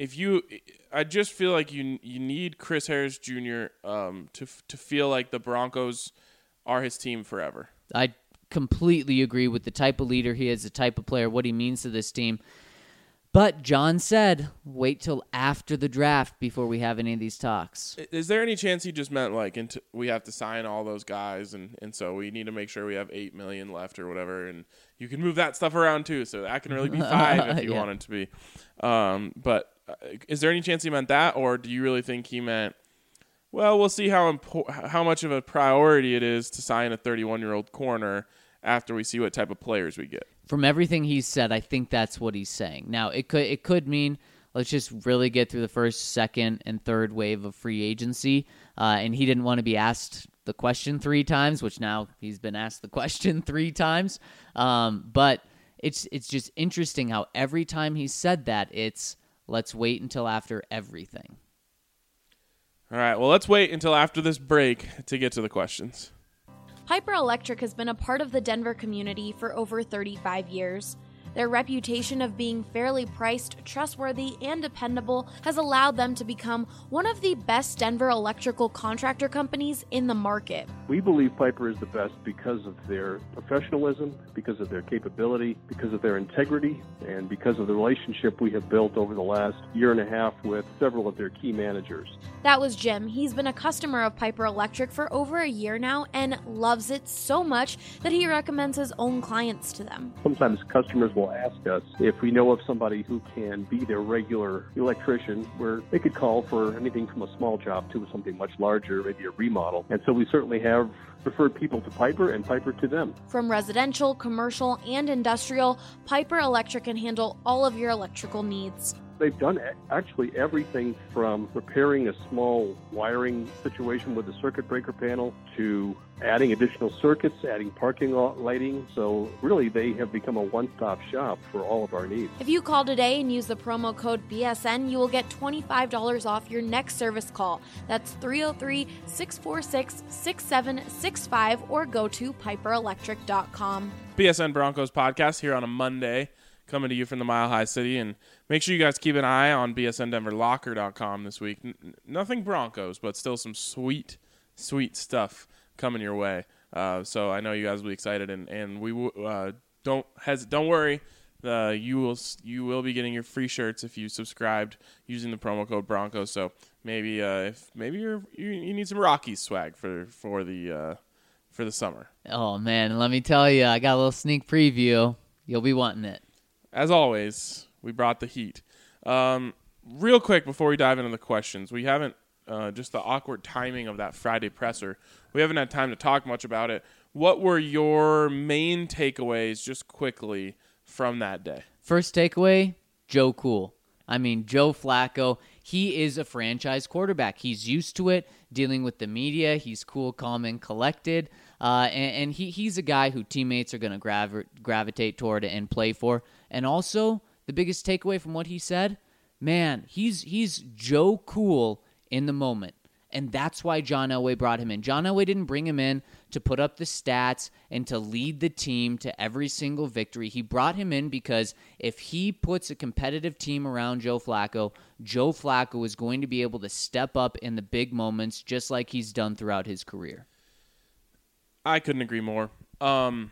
I just feel like you need Chris Harris Jr. To feel like the Broncos are his team forever. I completely agree with the type of leader he is, the type of player, what he means to this team. But John said, wait till after the draft before we have any of these talks. Is there any chance he just meant we have to sign all those guys and so we need to make sure we have $8 million left or whatever, and you can move that stuff around too, so that can really be 5 if you want it to be. But is there any chance he meant that, or do you really think he meant, well, we'll see how much of a priority it is to sign a 31-year-old corner after we see what type of players we get? From everything he said, I think that's what he's saying. Now, it could mean let's just really get through the first, second, and third wave of free agency, and he didn't want to be asked the question 3 times, which now he's been asked the question 3 times. But it's just interesting how every time he said that, it's let's wait until after everything. All right, well, let's wait until after this break to get to the questions. Piper Electric has been a part of the Denver community for over 35 years. Their reputation of being fairly priced, trustworthy, and dependable has allowed them to become one of the best Denver electrical contractor companies in the market. We believe Piper is the best because of their professionalism, because of their capability, because of their integrity, and because of the relationship we have built over the last year and a half with several of their key managers. That was Jim. He's been a customer of Piper Electric for over a year now and loves it so much that he recommends his own clients to them. Sometimes customers will ask us if we know of somebody who can be their regular electrician, where they could call for anything from a small job to something much larger, maybe a remodel. And so we certainly have referred people to Piper and Piper to them. From residential, commercial, and industrial, Piper Electric can handle all of your electrical needs. They've done actually everything from repairing a small wiring situation with the circuit breaker panel to adding additional circuits, adding parking lot lighting. So really, they have become a one-stop shop for all of our needs. If you call today and use the promo code BSN, you will get $25 off your next service call. That's 303-646-6765 or go to piperelectric.com. BSN Broncos podcast here on a Monday, coming to you from the Mile High City. And make sure you guys keep an eye on bsndenverlocker.com this week. Nothing Broncos, but still some sweet, sweet stuff coming your way. So I know you guys will be excited, and we don't worry. You will be getting your free shirts if you subscribed using the promo code Broncos. So maybe if you need some Rockies swag for the summer. Oh man, let me tell you, I got a little sneak preview. You'll be wanting it. As always, we brought the heat. Real quick before we dive into the questions, we haven't just the awkward timing of that Friday presser. We haven't had time to talk much about it. What were your main takeaways, just quickly, from that day? First takeaway, Joe Cool. I mean, Joe Flacco, he is a franchise quarterback. He's used to it, dealing with the media. He's cool, calm, and collected. And he's a guy who teammates are going to gravitate toward and play for. And also, the biggest takeaway from what he said, man, he's Joe Cool in the moment. And that's why John Elway brought him in. John Elway didn't bring him in to put up the stats and to lead the team to every single victory. He brought him in because if he puts a competitive team around Joe Flacco is going to be able to step up in the big moments just like he's done throughout his career. I couldn't agree more. I'm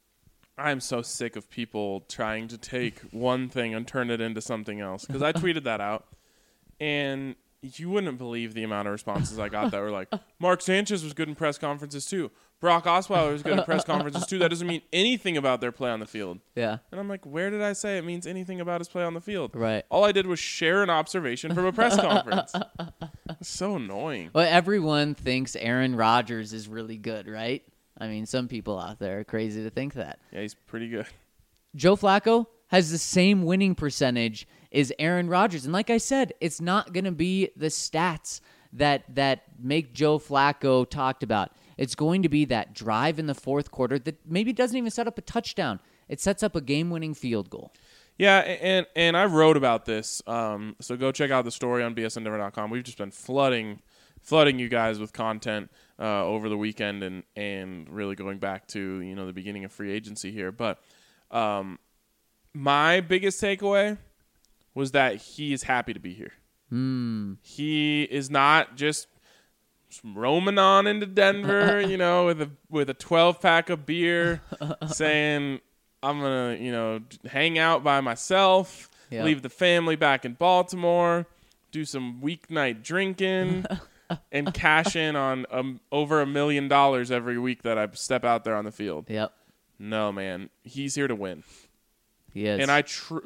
so sick of people trying to take one thing and turn it into something else. Because I tweeted that out, and you wouldn't believe the amount of responses I got that were like, Mark Sanchez was good in press conferences too. Brock Osweiler was good in press conferences too. That doesn't mean anything about their play on the field. Yeah. And I'm like, where did I say it means anything about his play on the field? Right. All I did was share an observation from a press conference. It's so annoying. Well, everyone thinks Aaron Rodgers is really good, right? I mean, some people out there are crazy to think that. Yeah, he's pretty good. Joe Flacco has the same winning percentage as Aaron Rodgers. And like I said, it's not going to be the stats that make Joe Flacco talked about. It's going to be that drive in the fourth quarter that maybe doesn't even set up a touchdown. It sets up a game-winning field goal. Yeah, and I wrote about this. So go check out the story on bsndenver.com. We've just been flooding you guys with content over the weekend and really going back to the beginning of free agency here. But my biggest takeaway was that he is happy to be here. He is not just roaming on into Denver, with a 12-pack of beer, saying I'm gonna hang out by myself, leave the family back in Baltimore, do some weeknight drinking. And cash in on over $1 million every week that I step out there on the field. Yep. No, man. He's here to win. He is. And I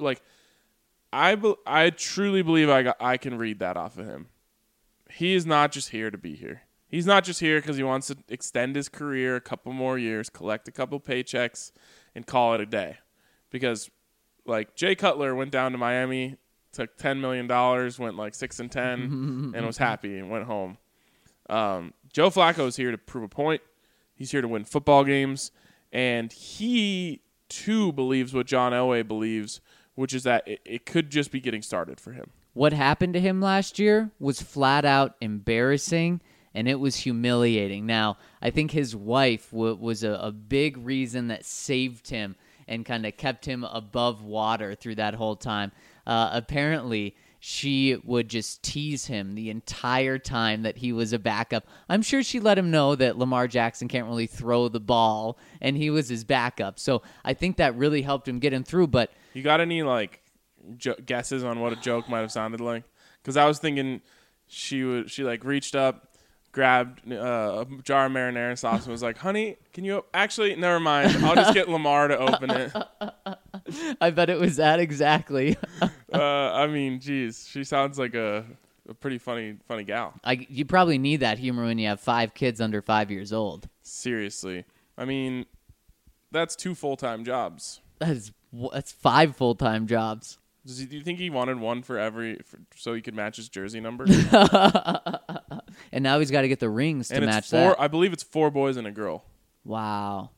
truly believe I can read that off of him. He is not just here to be here. He's not just here because he wants to extend his career a couple more years, collect a couple paychecks, and call it a day. Because, Jay Cutler went down to Miami, took $10 million, went 6-10, and was happy and went home. Joe Flacco is here to prove a point. He's here to win football games. And he, too, believes what John Elway believes, which is that it could just be getting started for him. What happened to him last year was flat out embarrassing, and it was humiliating. Now, I think his wife was a big reason that saved him and kind of kept him above water through that whole time. Apparently, she would just tease him the entire time that he was a backup. I'm sure she let him know that Lamar Jackson can't really throw the ball, and he was his backup. So I think that really helped him get him through. But you got any guesses on what a joke might have sounded like? Because I was thinking she reached up, grabbed a jar of marinara sauce and was like, honey, can you actually, never mind. I'll just get Lamar to open it. I bet it was that exactly. I mean, geez, she sounds like a pretty funny gal. You probably need that humor when you have 5 kids under 5 years old. Seriously. I mean, that's 2 full-time jobs. That's 5 full-time jobs. Do you think he wanted one so he could match his jersey number? And now he's got to get the rings to And match it's 4. that. I believe it's 4 boys and a girl. Wow.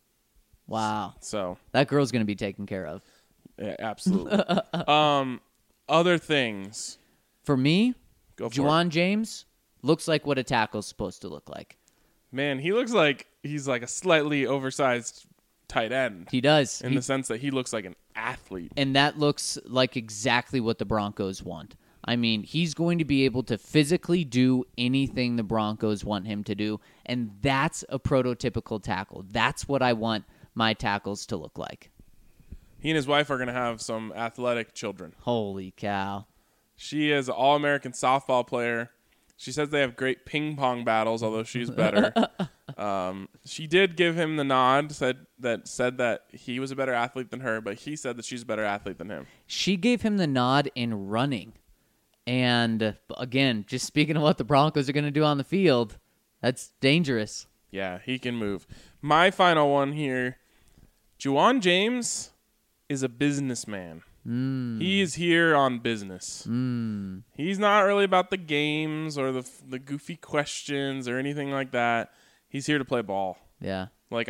So That girl's going to be taken care of. yeah, absolutely. Other things. For me, Go for Juwan James looks like what a tackle's supposed to look like. Man, he looks like he's like a slightly oversized tight end He does. in the sense that he looks like an athlete. And that looks like exactly what the Broncos want. I mean, he's going to be able to physically do anything the Broncos want him to do, and that's a prototypical tackle. That's what I want my tackles to look like. He and his wife are going to have some athletic children. Holy cow. She is an All-American softball player. She says they have great ping pong battles, although she's better. She did give him the nod, said that he was a better athlete than her, but he said that she's a better athlete than him. She gave him the nod in running. And again, just speaking of what the Broncos are going to do on the field, that's dangerous. Yeah, he can move. My final one here, Juwan James is a businessman. He's here on business. He's not really about the games or the goofy questions or anything like that. He's here to play ball. Yeah. Like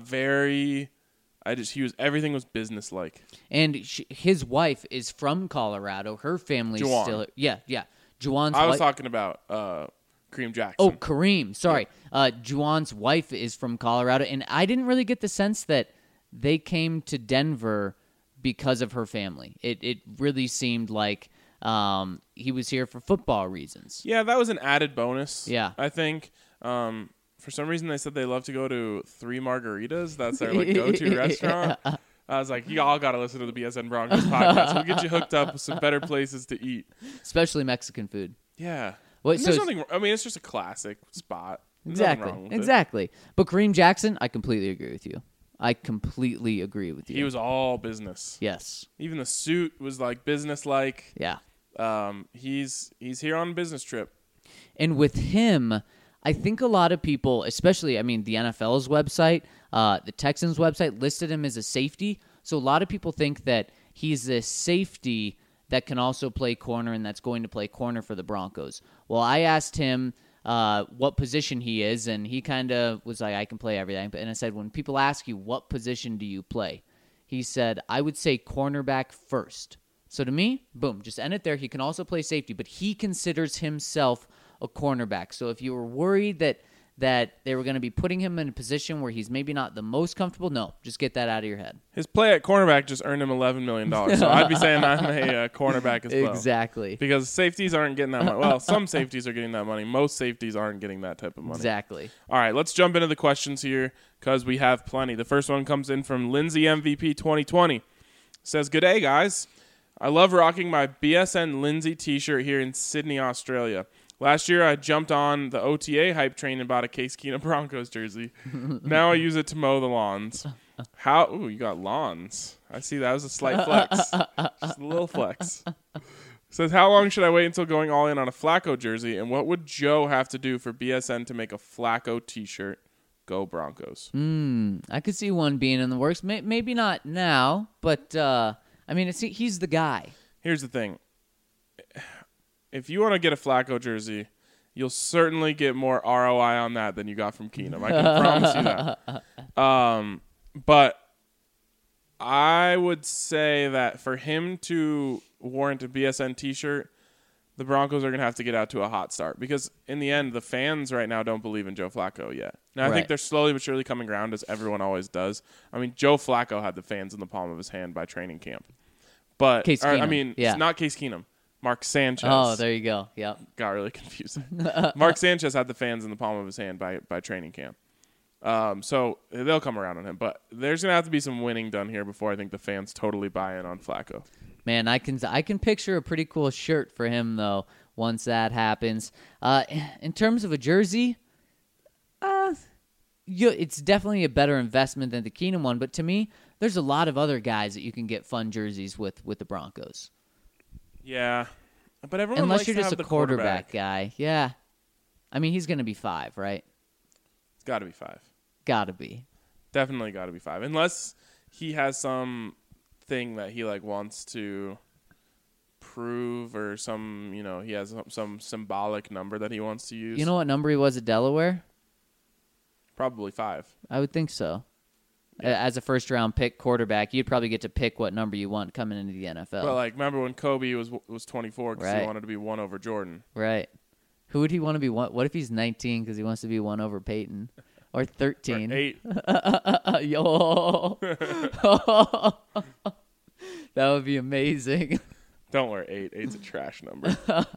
everything was business-like. And his wife is from Colorado. Her family's Juwan. still... Yeah. Juwan's I was wife... talking about Kareem Jackson. Oh, Kareem. Sorry. Juwan's wife is from Colorado. And I didn't really get the sense that they came to Denver because of her family. It really seemed like he was here for football reasons. Yeah, that was an added bonus. Yeah. I think. For some reason, they said they love to go to Three Margaritas. That's their go-to restaurant. I was like, you all got to listen to the BSN Broncos podcast. We'll get you hooked up with some better places to eat. Especially Mexican food. Yeah. Wait, There's nothing. I mean, it's just a classic spot. There's nothing wrong with it. Exactly. But Kareem Jackson, I completely agree with you. He was all business. Yes. Even the suit was like business-like. Yeah. He's here on a business trip. And with him, I think a lot of people, especially, the NFL's website, the Texans' website, listed him as a safety. So a lot of people think that he's a safety that can also play corner and that's going to play corner for the Broncos. Well, I asked him what position he is, and he kind of was like, I can play everything. And I said, when people ask you, what position do you play? He said, I would say cornerback first. So to me, boom, just end it there. He can also play safety, but he considers himself a cornerback. So if you were worried that they were going to be putting him in a position where he's maybe not the most comfortable, no, just get that out of your head. His play at cornerback just earned him $11 million. So I'd be saying I'm a cornerback as well. Exactly. Because safeties aren't getting that money. Well, some safeties are getting that money. Most safeties aren't getting that type of money. Exactly. All right, let's jump into the questions here because we have plenty. The first one comes in from Lindsay MVP 2020. It says, good day, guys. I love rocking my BSN Lindsay t-shirt here in Sydney, Australia. Last year, I jumped on the OTA hype train and bought a Case Keenum Broncos jersey. Now I use it to mow the lawns. Ooh, you got lawns. I see that was a slight flex. Just a little flex. Says, how long should I wait until going all in on a Flacco jersey? And what would Joe have to do for BSN to make a Flacco t-shirt? Go Broncos. I could see one being in the works. Maybe not now, but, he's the guy. Here's the thing. If you want to get a Flacco jersey, you'll certainly get more ROI on that than you got from Keenum. I can promise you that. But I would say that for him to warrant a BSN t-shirt, the Broncos are going to have to get out to a hot start. Because in the end, the fans right now don't believe in Joe Flacco yet. Now, I think they're slowly but surely coming around, as everyone always does. Joe Flacco had the fans in the palm of his hand by training camp. But Case Keenum. It's not Case Keenum. Mark Sanchez. Oh, there you go. Yep. Got really confusing. Mark Sanchez had the fans in the palm of his hand by training camp. So they'll come around on him. But there's going to have to be some winning done here before I think the fans totally buy in on Flacco. Man, I can picture a pretty cool shirt for him, though, once that happens. In terms of a jersey, it's definitely a better investment than the Keenum one. But to me, there's a lot of other guys that you can get fun jerseys with the Broncos. Yeah, but everyone unless likes you're to just have a the quarterback guy. Yeah, he's going to be 5, right? It's got to be 5. Got to be. Definitely got to be 5, unless he has some thing that he wants to prove or some, he has some symbolic number that he wants to use. You know what number he was at Delaware? Probably 5. I would think so. As a first-round pick quarterback, you'd probably get to pick what number you want coming into the NFL. But remember when Kobe was 24 because Right. he wanted to be 1 over Jordan. Right. Who would he want to be? What if he's 19 because he wants to be 1 over Peyton? Or 13? Or 8. Yo. That would be amazing. Don't worry, 8. 8's a trash number.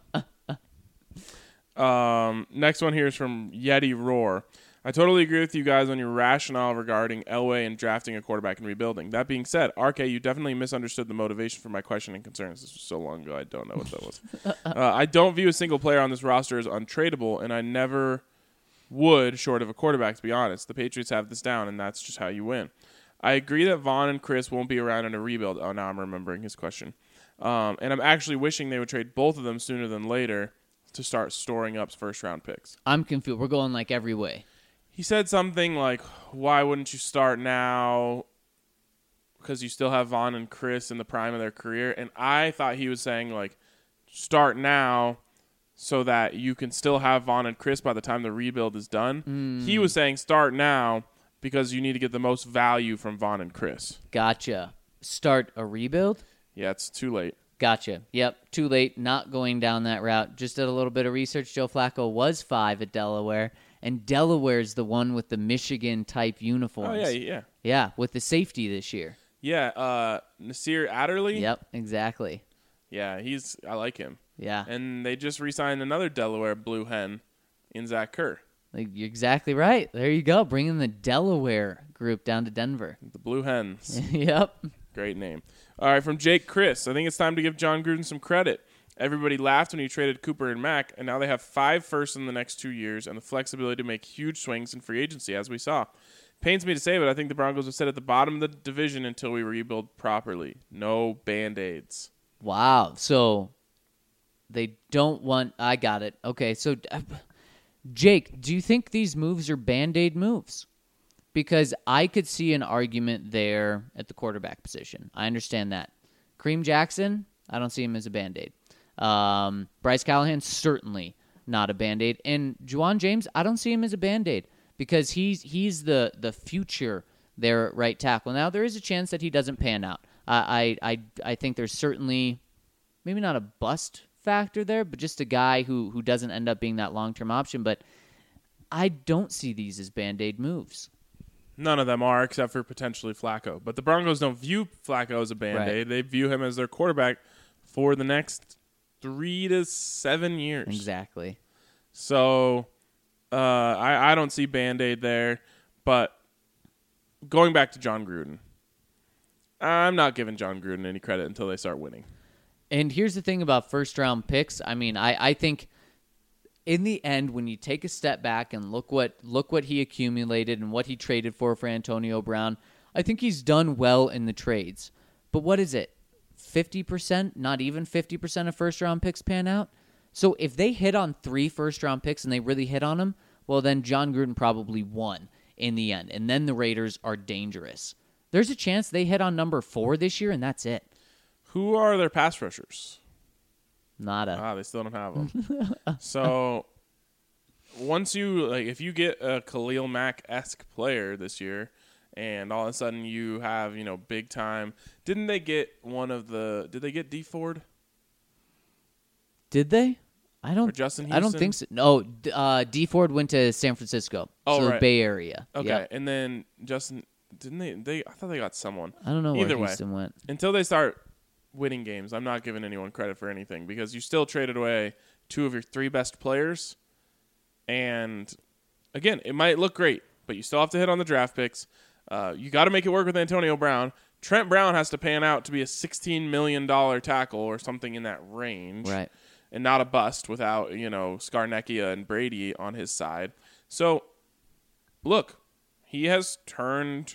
Next one here is from Yeti Roar. I totally agree with you guys on your rationale regarding Elway and drafting a quarterback and rebuilding. That being said, RK, you definitely misunderstood the motivation for my question and concerns. This was so long ago, I don't know what that was. I don't view a single player on this roster as untradeable, and I never would, short of a quarterback, to be honest. The Patriots have this down, and that's just how you win. I agree that Vaughn and Chris won't be around in a rebuild. Oh, now I'm remembering his question. And I'm actually wishing they would trade both of them sooner than later to start storing up first-round picks. I'm confused. We're going every way. He said something like, why wouldn't you start now? Because you still have Vaughn and Chris in the prime of their career. And I thought he was saying, start now so that you can still have Vaughn and Chris by the time the rebuild is done. He was saying start now because you need to get the most value from Vaughn and Chris. Gotcha. Start a rebuild? Yeah, it's too late. Gotcha. Yep, too late. Not going down that route. Just did a little bit of research. Joe Flacco was 5 at Delaware. And Delaware's the one with the Michigan-type uniforms. Oh, yeah. Yeah, with the safety this year. Yeah, Nasir Adderley. Yep, exactly. Yeah, I like him. Yeah. And they just re-signed another Delaware Blue Hen in Zach Kerr. You're exactly right. There you go. Bringing the Delaware group down to Denver. The Blue Hens. Yep. Great name. All right, from Jake Chris. I think it's time to give John Gruden some credit. Everybody laughed when he traded Cooper and Mack, and now they have 5 firsts in the next 2 years and the flexibility to make huge swings in free agency, as we saw. Pains me to say, but I think the Broncos will sit at the bottom of the division until we rebuild properly. No Band-Aids. Wow. So they don't want... I got it. Okay, so Jake, do you think these moves are Band-Aid moves? Because I could see an argument there at the quarterback position. I understand that. Kareem Jackson, I don't see him as a Band-Aid. Bryce Callahan, certainly not a Band-Aid. And Juwan James, I don't see him as a Band-Aid because he's the future there at right tackle. Now, there is a chance that he doesn't pan out. I think there's certainly maybe not a bust factor there, but just a guy who doesn't end up being that long-term option. But I don't see these as Band-Aid moves. None of them are, except for potentially Flacco. But the Broncos don't view Flacco as a Band-Aid. Right. They view him as their quarterback for the next 3 to 7 years. Exactly. So I don't see Band-Aid there. But going back to John Gruden, I'm not giving John Gruden any credit until they start winning. And here's the thing about first-round picks. I mean, I think in the end, when you take a step back and look what he accumulated and what he traded for Antonio Brown, I think he's done well in the trades. But what is it? 50%? Not even 50% of first-round picks pan out? So if they hit on 3 first-round picks and they really hit on them, well, then John Gruden probably won in the end. And then the Raiders are dangerous. There's a chance they hit on number 4 this year, and that's it. Who are their pass rushers? Nada. They still don't have them. So once if you get a Khalil Mack-esque player this year, and all of a sudden you have, big time. Didn't they get did they get D Ford? Did they? Or Justin Houston? I don't think so. No, D Ford went to San Francisco. Oh, so right. The Bay Area. Okay. Yep. And then Justin, didn't they? I thought they got someone. I don't know Either where way, Houston went. Until they start winning games, I'm not giving anyone credit for anything because you still traded away 2 of your 3 best players. And again, it might look great, but you still have to hit on the draft picks. You got to make it work with Antonio Brown. Trent Brown has to pan out to be a $16 million tackle or something in that range. Right. And not a bust without, Scarnecchia and Brady on his side. So, look, he has turned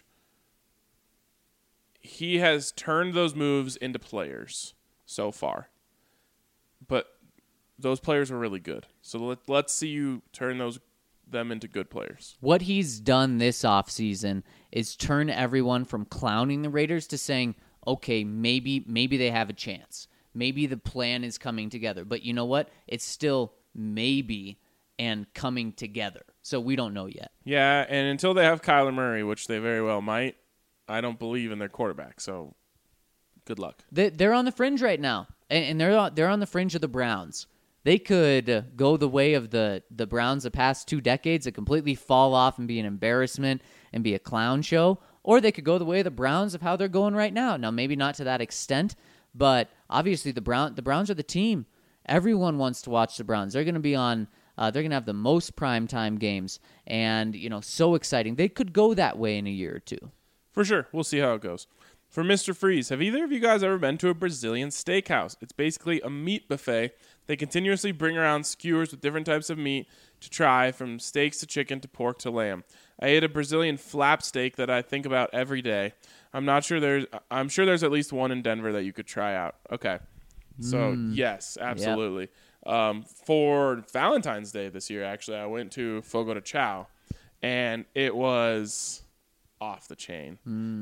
those moves into players so far. But those players are really good. So let's see you turn them into good players. What he's done this offseason is turn everyone from clowning the Raiders to saying, okay, maybe they have a chance. maybe the plan is coming together. But you know what? It's still maybe and coming together. So we don't know yet. Yeah, and until they have Kyler Murray, which they very well might, I don't believe in their quarterback. So good luck. They're on the fringe right now, and they're on the fringe of the Browns. They could go the way of the Browns the past 2 decades and completely fall off and be an embarrassment and be a clown show, or they could go the way of the Browns of how they're going right now. Now, maybe not to that extent, but obviously the Browns are the team. Everyone wants to watch the Browns. They're going to be on. They're going to have the most primetime games, and so exciting. They could go that way in a year or two. For sure. We'll see how it goes. For Mr. Freeze, have either of you guys ever been to a Brazilian steakhouse? It's basically a meat buffet. They continuously bring around skewers with different types of meat to try, from steaks to chicken to pork to lamb. I ate a Brazilian flap steak that I think about every day. I'm sure there's at least one in Denver that you could try out. Okay. So, yes, absolutely. Yep. For Valentine's Day this year, actually, I went to Fogo de Chao, and it was off the chain.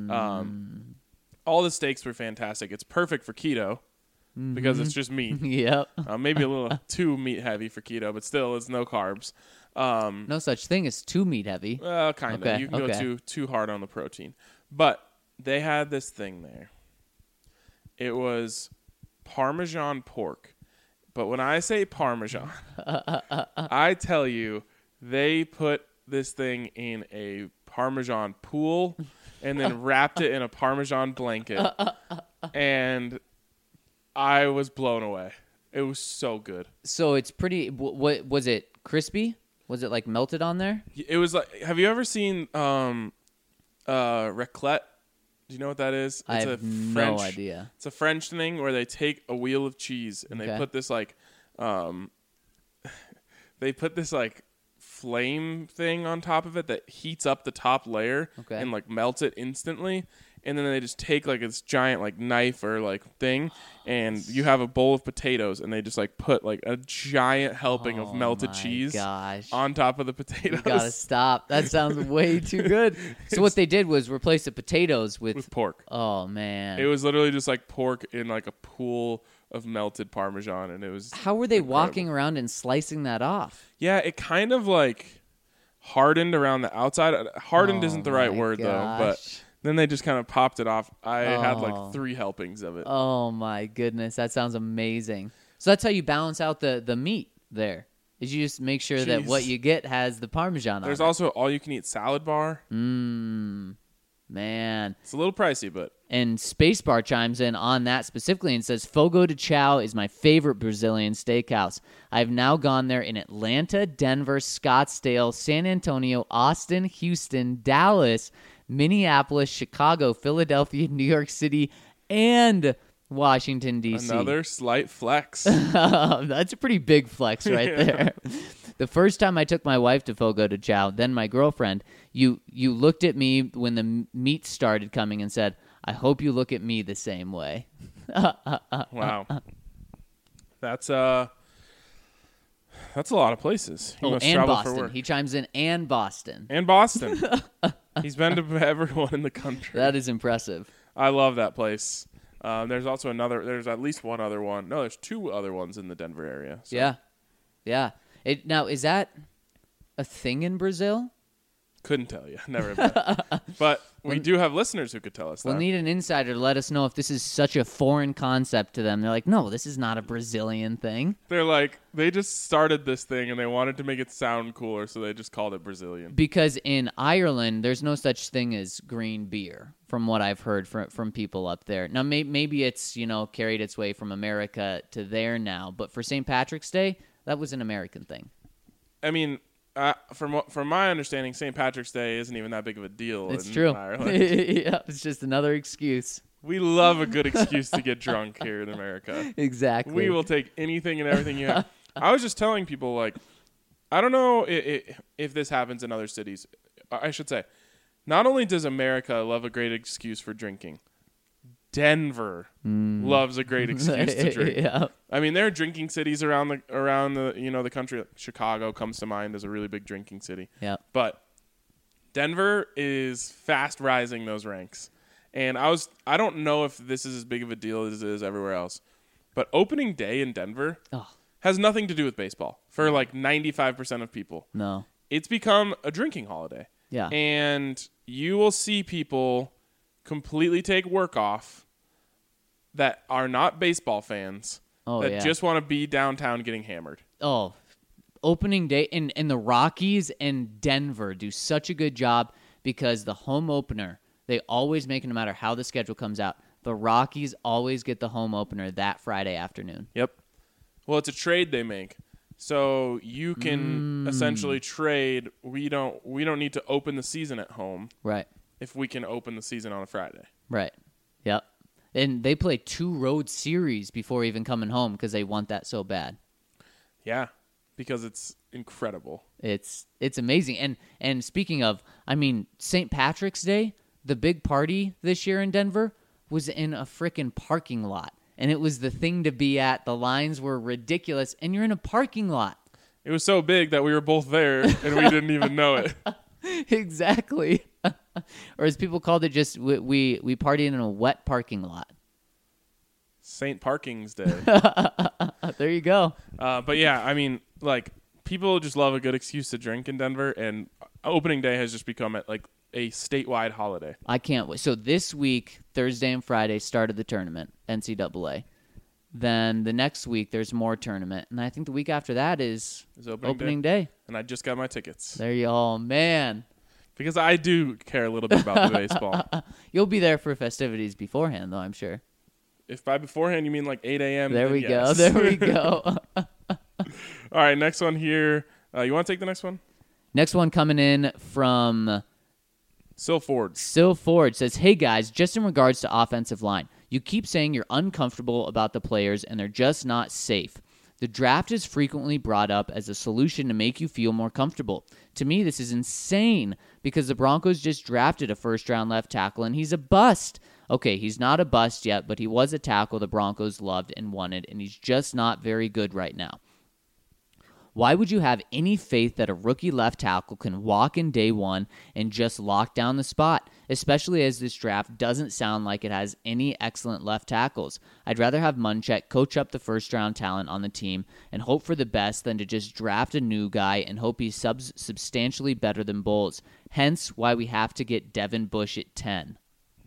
All the steaks were fantastic. It's perfect for keto because it's just meat. Yep. Maybe a little too meat heavy for keto, but still, it's no carbs. No such thing as too meat heavy. Well, kind of. Okay, You can go too hard on the protein. But they had this thing there. It was Parmesan pork. But when I say Parmesan, I tell you, they put this thing in a Parmesan pool and then wrapped it in a Parmesan blanket. And I was blown away. It was so good. So it's pretty. What was it? Crispy? Was it like melted on there? It was like. Have you ever seen raclette? Do you know what that is? I have no idea. It's a French thing where they take a wheel of cheese and they put this flame thing on top of it that heats up the top layer and like melts it instantly. And then they just take like this giant like knife or like thing, and you have a bowl of potatoes, and they just like put like a giant helping of melted cheese on top of the potatoes. You gotta stop. That sounds way too good. So what they did was replace the potatoes with pork. Oh man! It was literally just like pork in like a pool of melted Parmesan, and it was. How were they incredible. walking around and slicing that off? Yeah, it kind of like hardened around the outside. Hardened isn't the right word though, but. Then they just kind of popped it off. I had like 3 helpings of it. Oh, my goodness. That sounds amazing. So that's how you balance out the meat there, is you just make sure that what you get has the Parmesan on it. There's also all-you-can-eat salad bar. Man. It's a little pricey, but... And Spacebar chimes in on that specifically and says, Fogo de Chao is my favorite Brazilian steakhouse. I've now gone there in Atlanta, Denver, Scottsdale, San Antonio, Austin, Houston, Dallas, Minneapolis, Chicago, Philadelphia, New York City, and Washington, D.C. Another slight flex. That's a pretty big flex right there. The first time I took my wife to Fogo de Chao, then my girlfriend, you looked at me when the meat started coming and said, I hope you look at me the same way. Wow. That's a lot of places. He must and travel Boston. for work. He chimes in, and Boston. And Boston. He's been to everyone in the country. That is impressive. I love that place. There's also there's at least one other one. No, there's 2 other ones in the Denver area. So. Yeah. Now, is that a thing in Brazil? Couldn't tell you. Never been. But we do have listeners who could tell us that. We'll need an insider to let us know if this is such a foreign concept to them. They're like, no, this is not a Brazilian thing. They're like, they just started this thing and they wanted to make it sound cooler, so they just called it Brazilian. Because in Ireland, there's no such thing as green beer, from what I've heard from people up there. Now, maybe it's, carried its way from America to there now. But for St. Patrick's Day, that was an American thing. I mean... from my understanding, St. Patrick's Day isn't even that big of a deal in true. Ireland. Yeah, it's just another excuse. We love a good excuse to get drunk here in America. Exactly. We will take anything and everything you have. I was just telling people, like, I don't know if this happens in other cities. I should say, not only does America love a great excuse for drinking, Denver loves a great excuse to drink. Yeah. I mean, there are drinking cities around the the country. Chicago comes to mind as a really big drinking city. Yeah. But Denver is fast rising those ranks. And I don't know if this is as big of a deal as it is everywhere else. But opening day in Denver has nothing to do with baseball for like 95% of people. No. It's become a drinking holiday. Yeah. And you will see people completely take work off that are not baseball fans that just want to be downtown getting hammered. Oh, opening day and the Rockies and Denver do such a good job because the home opener, they always make it no matter how the schedule comes out. The Rockies always get the home opener that Friday afternoon. Yep. Well, it's a trade they make. So you can essentially trade. We don't need to open the season at home. Right. If we can open the season on a Friday. Right. Yep. And they play 2 road series before even coming home because they want that so bad. Yeah, because it's incredible. It's amazing. And speaking of, I mean, St. Patrick's Day, the big party this year in Denver was in a freaking parking lot. And it was the thing to be at. The lines were ridiculous. And you're in a parking lot. It was so big that we were both there and we didn't even know it. Exactly. Or as people called it, just we partied in a wet parking lot. St. Parking's Day. There you go. But yeah, I mean, like, people just love a good excuse to drink in Denver, and opening day has just become like a statewide holiday. I can't wait. So this week, Thursday and Friday, started the tournament, NCAA. Then the next week, there's more tournament. And I think the week after that is opening day. And I just got my tickets. There you all, man. Because I do care a little bit about the baseball. You'll be there for festivities beforehand, though, I'm sure. If by beforehand you mean like 8 a.m., There we go. yes. There we go. All right, next one here. You want to take the next one? Next one coming in from Sil Ford. Sil Ford says, hey, guys, just in regards to offensive line, you keep saying you're uncomfortable about the players and they're just not safe. The draft is frequently brought up as a solution to make you feel more comfortable. To me, this is insane because the Broncos just drafted a first-round left tackle and he's a bust. Okay, he's not a bust yet, but he was a tackle the Broncos loved and wanted, and he's just not very good right now. Why would you have any faith that a rookie left tackle can walk in day one and just lock down the spot, especially as this draft doesn't sound like it has any excellent left tackles? I'd rather have Munchak coach up the first-round talent on the team and hope for the best than to just draft a new guy and hope he's substantially better than Bowles. Hence why we have to get Devin Bush at 10.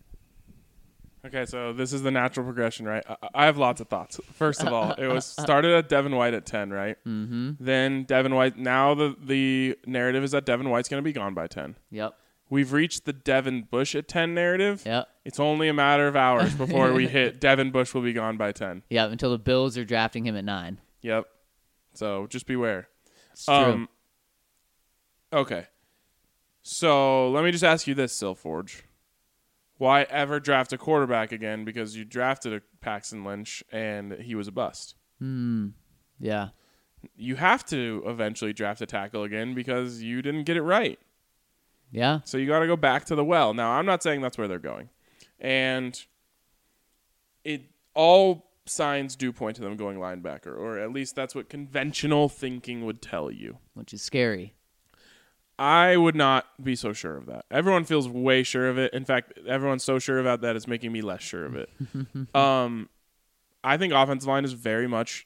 Okay, so this is the natural progression, right? I have lots of thoughts. First of all, it was started at Devin White at 10, right? Mm-hmm. Then Devin White. Now the narrative is that Devin White's going to be gone by 10. Yep. We've reached the Devin Bush at 10 narrative. Yep. It's only a matter of hours before we hit Devin Bush will be gone by 10. Yep, until the Bills are drafting him at 9. Yep. So just beware. It's true. Okay. So let me just ask you this, Sil Forge. Why ever draft a quarterback again? Because you drafted a Paxton Lynch and he was a bust. Yeah. You have to eventually draft a tackle again because you didn't get it right. Yeah. So you got to go back to the well. Now, I'm not saying that's where they're going. And all signs do point to them going linebacker, or at least that's what conventional thinking would tell you. Which is scary. I would not be so sure of that. Everyone feels way sure of it. In fact, everyone's so sure about that it's making me less sure of it. I think offensive line is very much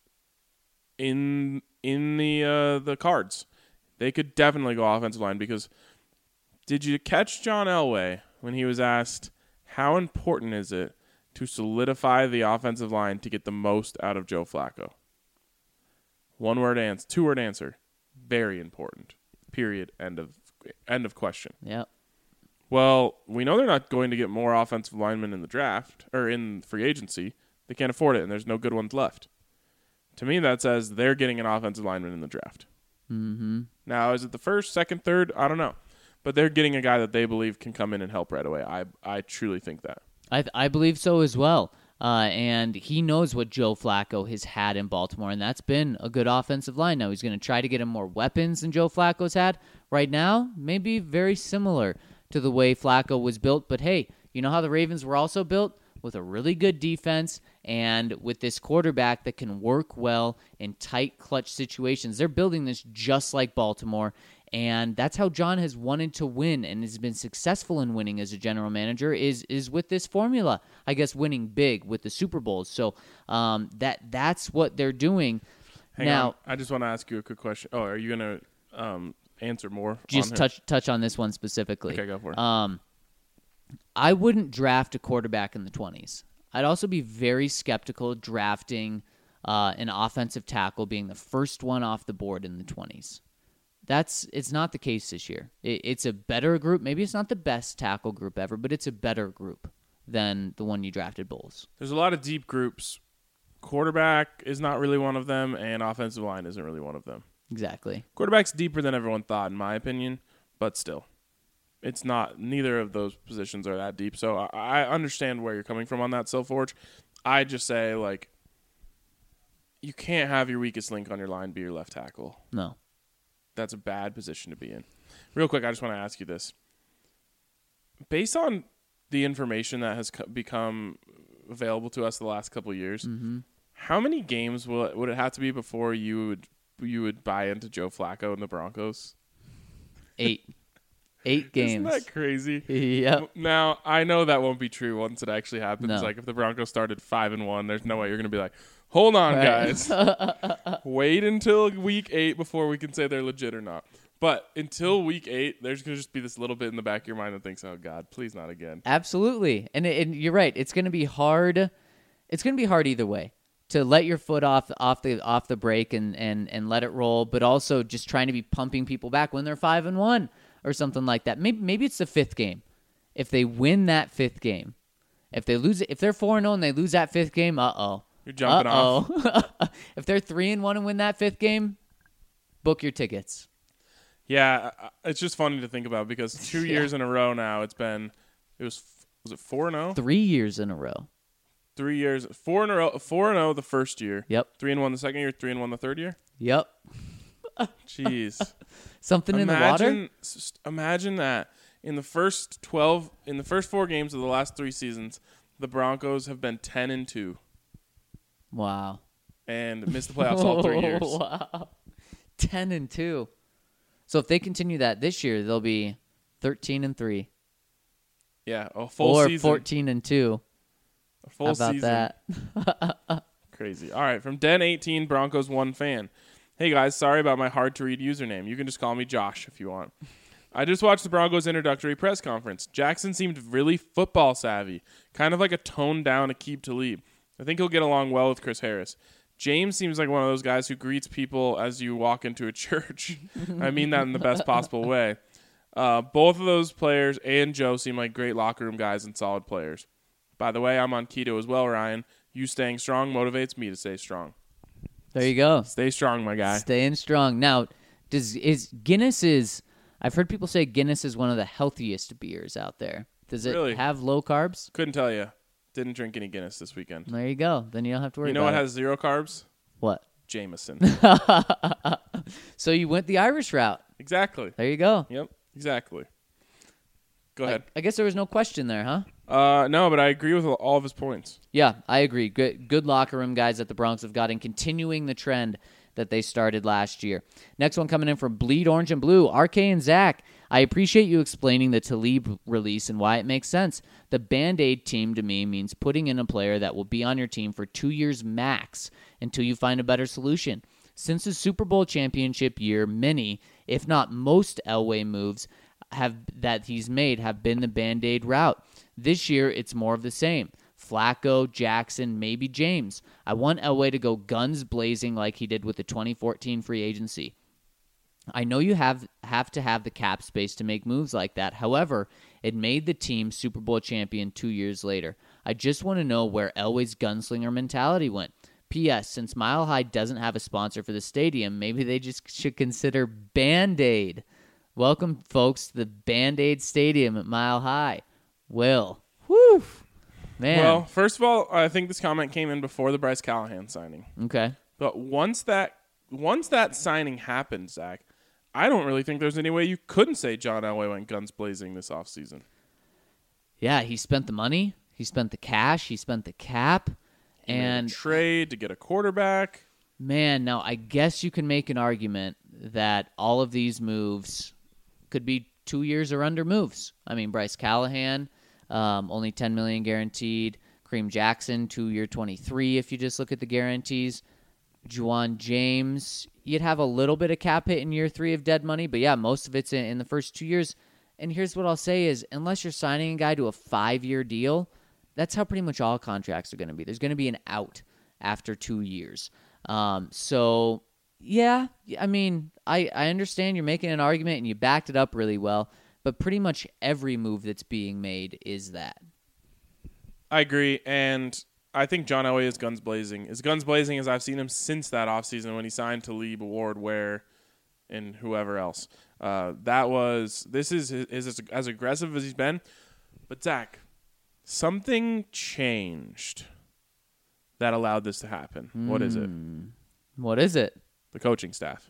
in the cards. They could definitely go offensive line because did you catch John Elway when he was asked how important is it to solidify the offensive line to get the most out of Joe Flacco? One-word answer, two-word answer. Very important. Period. End of question. Yep. Well, we know they're not going to get more offensive linemen in the draft or in free agency. They can't afford it, and there's no good ones left. To me, that says they're getting an offensive lineman in the draft. Mm-hmm. Now, is it the first, second, third? I don't know. But they're getting a guy that they believe can come in and help right away. I truly think that. I believe so as well. And he knows what Joe Flacco has had in Baltimore, and that's been a good offensive line. Now he's going to try to get him more weapons than Joe Flacco's had. Right now, maybe very similar to the way Flacco was built. But hey, you know how the Ravens were also built? With a really good defense and with this quarterback that can work well in tight, clutch situations. They're building this just like Baltimore, And that's how John has wanted to win and has been successful in winning as a general manager is with this formula. I guess winning big with the Super Bowls. So that's what they're doing. Hang on. I just want to ask you a quick question. Oh, are you going to answer more? Just touch on this one specifically. Okay, go for it. I wouldn't draft a quarterback in the 20s. I'd also be very skeptical drafting an offensive tackle being the first one off the board in the 20s. It's not the case this year. It's a better group. Maybe it's not the best tackle group ever, but it's a better group than the one you drafted, Bulls. There's a lot of deep groups. Quarterback is not really one of them, and offensive line isn't really one of them. Exactly. Quarterback's deeper than everyone thought, in my opinion, but still. It's not. Neither of those positions are that deep. So I understand where you're coming from on that, Silforge. I just say, like, you can't have your weakest link on your line be your left tackle. No. That's a bad position to be in. Real quick, I just want to ask you this. Based on the information that has become available to us the last couple of years, how many games would it have to be before you would buy into Joe Flacco and the Broncos? 8. 8 games. Isn't that crazy? Yep. Now, I know that won't be true once it actually happens. No. Like, if the Broncos started 5-1, there's no way you're going to be like, hold on, guys. Wait until week 8 before we can say they're legit or not. But until week 8, there's going to just be this little bit in the back of your mind that thinks, oh, God, please not again. Absolutely. And you're right. It's going to be hard. It's going to be hard either way to let your foot off the brake and let it roll, but also just trying to be pumping people back when they're 5-1 or something like that. Maybe it's the 5th game. If they win that 5th game, if they lose it, if they're 4-0 and they lose that 5th game, You're jumping off. If they're 3-1 and win that 5th game, book your tickets. Yeah, it's just funny to think about because 2 years in a row now was it 4-0? 3 years in a row. 3 years, 4 in a row, 4-0 the first year. Yep. 3-1 the second year, 3-1 the third year. Yep. Jeez. Something in the water? Imagine that in the first 4 games of the last 3 seasons, the Broncos have been 10-2. Wow. And missed the playoffs all 3 years. Wow. 10-2. So if they continue that this year, they'll be 13-3. Yeah, a full season. Or 14-2. A full How about season. that? Crazy. All right, from Den18 Broncos 1 fan. Hey guys, sorry about my hard to read username. You can just call me Josh if you want. I just watched the Broncos introductory press conference. Jackson seemed really football savvy, kind of like a toned down Aqib Talib. I think he'll get along well with Chris Harris. James seems like one of those guys who greets people as you walk into a church. I mean that in the best possible way. Both of those players and Joe seem like great locker room guys and solid players. By the way, I'm on keto as well, Ryan. You staying strong motivates me to stay strong. There you go. Stay strong, my guy. Staying strong. Now, I've heard people say Guinness is one of the healthiest beers out there. Does it Really? have low carbs? Couldn't tell you. Didn't drink any Guinness this weekend. There you go. Then you don't have to worry You know about what it. has 0 carbs? What? Jameson. So you went the Irish route. Exactly. There you go. Yep, exactly. Go ahead. I guess there was no question there, huh? No, but I agree with all of his points. Yeah, I agree. Good locker room guys that the Broncos have got and continuing the trend that they started last year. Next one coming in from Bleed Orange and Blue, RK and Zach. I appreciate you explaining the Talib release and why it makes sense. The Band-Aid team to me means putting in a player that will be on your team for 2 years max until you find a better solution. Since the Super Bowl championship year, many, if not most Elway moves that he's made have been the Band-Aid route. This year, it's more of the same. Flacco, Jackson, maybe James. I want Elway to go guns blazing like he did with the 2014 free agency. I know you have to have the cap space to make moves like that. However, it made the team Super Bowl champion 2 years later. I just want to know where Elway's gunslinger mentality went. P.S. Since Mile High doesn't have a sponsor for the stadium, maybe they just should consider Band-Aid. Welcome, folks, to the Band-Aid Stadium at Mile High. Will. Whew. Man. Well, first of all, I think this comment came in before the Bryce Callahan signing. Okay. But once that signing happened, Zach, I don't really think there's any way you couldn't say John Elway went guns blazing this offseason. Yeah, he spent the money. He spent the cash. He spent the cap. He made a trade to get a quarterback. Man, now I guess you can make an argument that all of these moves could be 2 years or under moves. I mean, Bryce Callahan, only $10 million guaranteed. Kareem Jackson, 2-year, $23 if you just look at the guarantees. Juwan James, you'd have a little bit of cap hit in year 3 of dead money, but yeah, most of it's in the first 2 years. And here's what I'll say is, unless you're signing a guy to a 5-year deal, that's how pretty much all contracts are going to be. There's going to be an out after 2 years. So, yeah, I mean, I understand you're making an argument and you backed it up really well, but pretty much every move that's being made is that. I agree, and I think John Elway is guns blazing. As guns blazing as I've seen him since that offseason when he signed Talib, Ward, Ware, and whoever else. This is as aggressive as he's been. But, Zach, something changed that allowed this to happen. What is it? What is it? The coaching staff.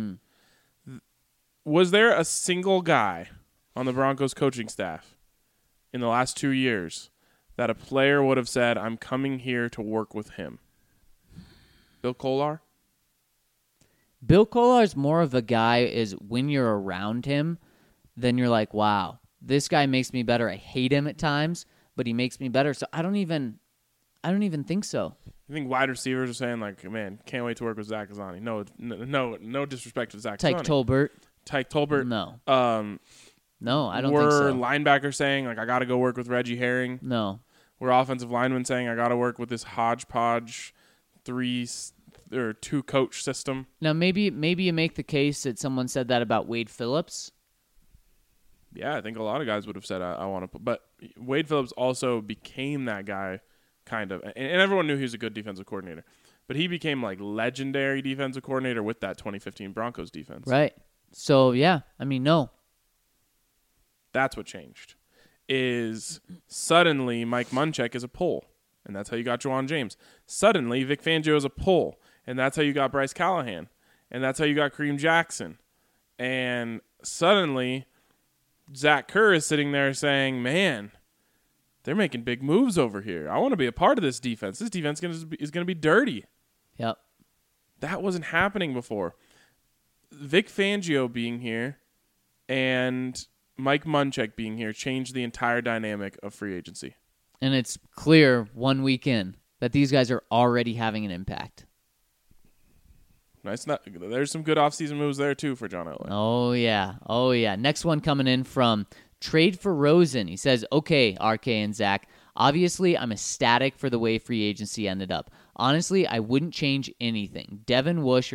Was there a single guy on the Broncos coaching staff in the last 2 years that a player would have said, I'm coming here to work with him? Bill Kollar? Bill Kollar's more of a guy is when you're around him, then you're like, wow, this guy makes me better. I hate him at times, but he makes me better. So I don't even think so. You think wide receivers are saying, like, man, can't wait to work with Zach Azzanni? No disrespect to Zach Azzanni. Tyke Tolbert. No. No, I don't think Were so. linebackers saying, like, I got to go work with Reggie Herring? No. Were offensive linemen saying, I got to work with this hodgepodge 2-coach system? Now, maybe you make the case that someone said that about Wade Phillips. Yeah, I think a lot of guys would have said, I want to. But Wade Phillips also became that guy, kind of. And everyone knew he was a good defensive coordinator. But he became, like, legendary defensive coordinator with that 2015 Broncos defense. Right. So, yeah, I mean, no. That's what changed. Is suddenly Mike Munchak is a pull, and that's how you got Juwan James. Suddenly Vic Fangio is a pull, and that's how you got Bryce Callahan, and that's how you got Kareem Jackson. And suddenly Zach Kerr is sitting there saying, man, they're making big moves over here. I want to be a part of this defense. This defense is going to be dirty. Yep. That wasn't happening before. Vic Fangio being here and Mike Munchak being here changed the entire dynamic of free agency. And it's clear 1 week in that these guys are already having an impact. Nice. There's some good offseason moves there, too, for John Elway. Oh, yeah. Next one coming in from Trade for Rosen. He says, okay, RK and Zach, obviously I'm ecstatic for the way free agency ended up. Honestly, I wouldn't change anything. Devin Bush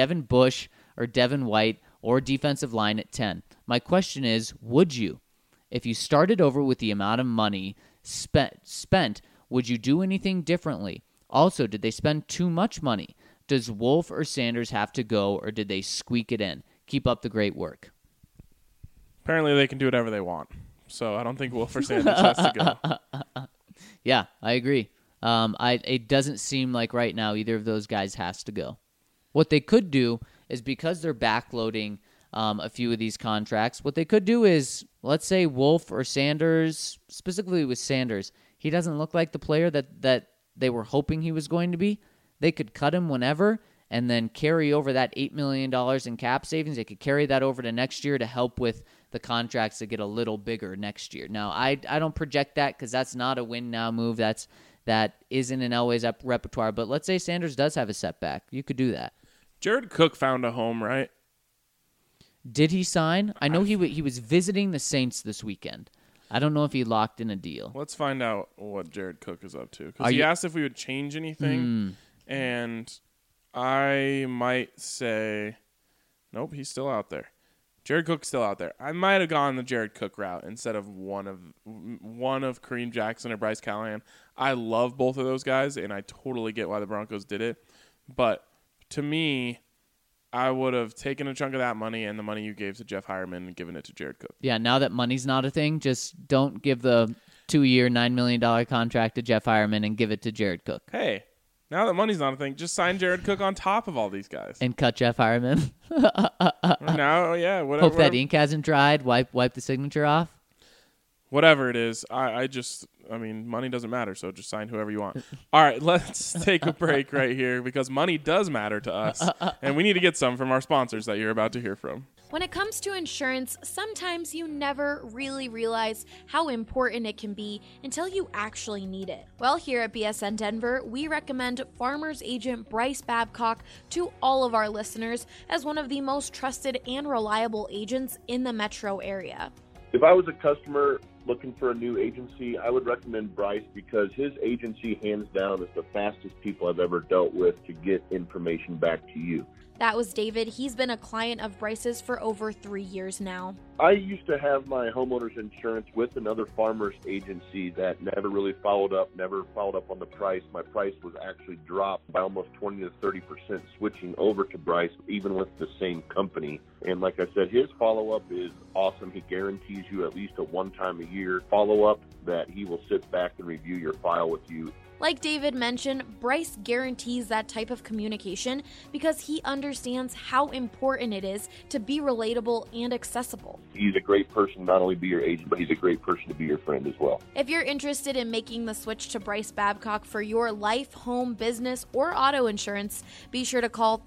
or Devin White or defensive line at 10. My question is, would you? If you started over with the amount of money spent, would you do anything differently? Also, did they spend too much money? Does Wolf or Sanders have to go, or did they squeak it in? Keep up the great work. Apparently they can do whatever they want, so I don't think Wolf or Sanders has to go. Yeah, I agree. It doesn't seem like right now either of those guys has to go. What they could do is, because they're backloading a few of these contracts, what they could do is, let's say Wolf or Sanders, specifically with Sanders, he doesn't look like the player that they were hoping he was going to be. They could cut him whenever and then carry over that $8 million in cap savings. They could carry that over to next year to help with the contracts that get a little bigger next year. Now, I don't project that because that's not a win-now move. That isn't in Elway's repertoire. But let's say Sanders does have a setback. You could do that. Jared Cook found a home, right? Did he sign? I know he was visiting the Saints this weekend. I don't know if he locked in a deal. Let's find out what Jared Cook is up to. Because he asked if we would change anything, and I might say, nope, he's still out there. Jared Cook's still out there. I might have gone the Jared Cook route instead of one of Kareem Jackson or Bryce Callahan. I love both of those guys, and I totally get why the Broncos did it. But to me, I would have taken a chunk of that money and the money you gave to Jeff Hireman and given it to Jared Cook. Yeah, now that money's not a thing, just don't give the 2-year, $9 million contract to Jeff Hireman and give it to Jared Cook. Hey, now that money's not a thing, just sign Jared Cook on top of all these guys. And cut Jeff Hireman. Now, yeah, whatever. Hope that ink hasn't dried. Wipe the signature off. whatever it is, I mean, money doesn't matter, so just sign whoever you want. All right, let's take a break right here because money does matter to us, and we need to get some from our sponsors that you're about to hear from. When it comes to insurance, sometimes you never really realize how important it can be until you actually need it. Well, here at BSN Denver, we recommend Farmers Agent Bryce Babcock to all of our listeners as one of the most trusted and reliable agents in the metro area. If I was a customer looking for a new agency, I would recommend Bryce because his agency, hands down, is the fastest people I've ever dealt with to get information back to you. That was David. He's been a client of Bryce's for over 3 years now. I used to have my homeowner's insurance with another farmer's agency that never really followed up on the price. My price was actually dropped by almost 20 to 30% switching over to Bryce, even with the same company. And like I said, his follow-up is awesome. He guarantees you at least a one-time-a-year follow-up that he will sit back and review your file with you. Like David mentioned, Bryce guarantees that type of communication because he understands how important it is to be relatable and accessible. He's a great person not only to be your agent, but he's a great person to be your friend as well. If you're interested in making the switch to Bryce Babcock for your life, home, business, or auto insurance, be sure to call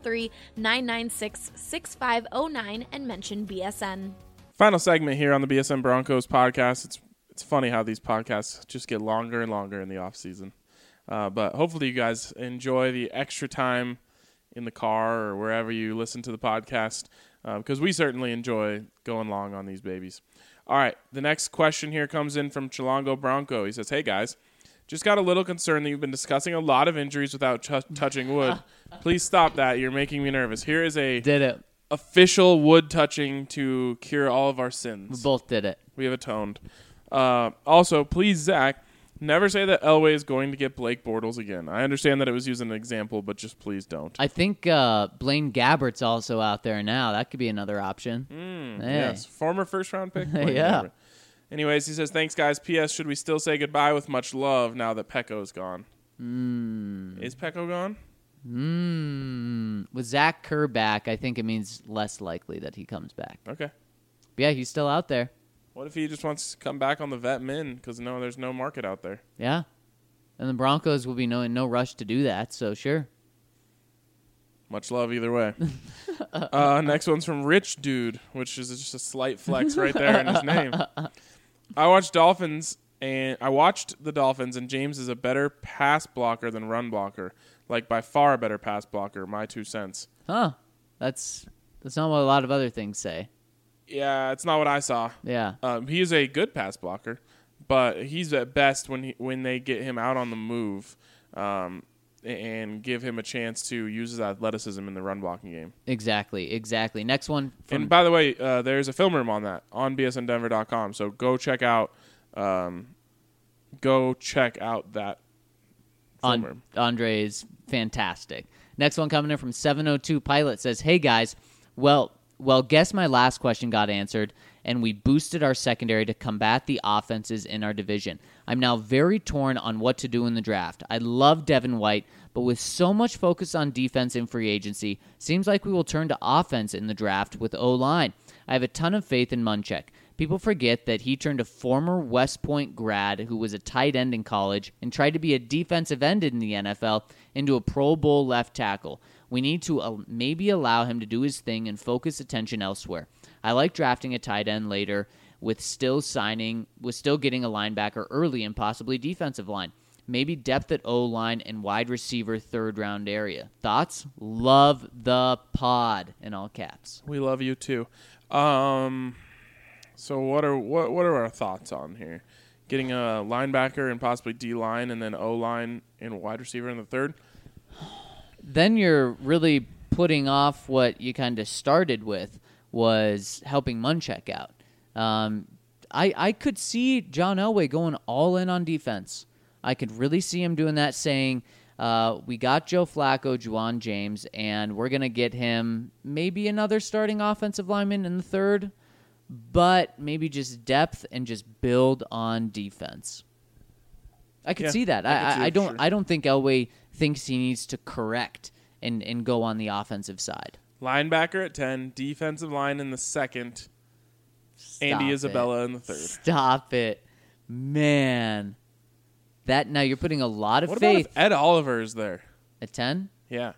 303-996-6509 and mention BSN. Final segment here on the BSN Broncos podcast. It's funny how these podcasts just get longer and longer in the off season. But hopefully you guys enjoy the extra time in the car or wherever you listen to the podcast because we certainly enjoy going long on these babies. All right, the next question here comes in from Chilongo Bronco. He says, hey guys, just got a little concerned that you've been discussing a lot of injuries without touching wood. Please stop that. You're making me nervous. Here is a official wood touching to cure all of our sins. We both did it. We have atoned. Also, please, Zach, never say that Elway is going to get Blake Bortles again. I understand that it was used as an example, but just please don't. I think Blaine Gabbert's also out there now. That could be another option. Yes, former first-round pick. Yeah. Gabbert. Anyways, he says, thanks, guys. P.S. Should we still say goodbye with much love now that Pecco's gone? Is Pecco gone? With Zach Kerr back, I think it means less likely that he comes back. Okay. But yeah, he's still out there. What if he just wants to come back on the vet min because there's no market out there? Yeah. And the Broncos will be in no rush to do that, so sure. Much love either way. Next one's from Rich Dude, which is just a slight flex right there in his name. I watched the Dolphins, and James is a better pass blocker than run blocker. Like, by far a better pass blocker, my 2 cents. Huh. That's not what a lot of other things say. Yeah, it's not what I saw. Yeah. He is a good pass blocker, but he's at best when they get him out on the move and give him a chance to use his athleticism in the run blocking game. Exactly. Next one. And by the way, there's a film room on that on bsndenver.com, so go check out that film room. Andre is fantastic. Next one coming in from 702 Pilot says, hey guys, well, guess my last question got answered, and we boosted our secondary to combat the offenses in our division. I'm now very torn on what to do in the draft. I love Devin White, but with so much focus on defense in free agency, seems like we will turn to offense in the draft with O-line. I have a ton of faith in Munchak. People forget that he turned a former West Point grad who was a tight end in college and tried to be a defensive end in the NFL into a Pro Bowl left tackle. We need to maybe allow him to do his thing and focus attention elsewhere. I like drafting a tight end later with still getting a linebacker early and possibly defensive line. Maybe depth at O-line and wide receiver third-round area. Thoughts? Love the pod, in all caps. We love you too. So what are our thoughts on here? Getting a linebacker and possibly D-line and then O-line and wide receiver in the third? Then you're really putting off what you kind of started with, was helping Munchak out. I could see John Elway going all in on defense. I could really see him doing that, saying, we got Joe Flacco, Juwan James, and we're going to get him maybe another starting offensive lineman in the third, but maybe just depth and just build on defense. I could see that. I don't think Elway thinks he needs to correct and go on the offensive side. Linebacker at 10, defensive line in the second, Andy it. Isabella in the third. Stop it. Man. Now you're putting a lot of What about faith if Ed Oliver is there? at 10? Yeah.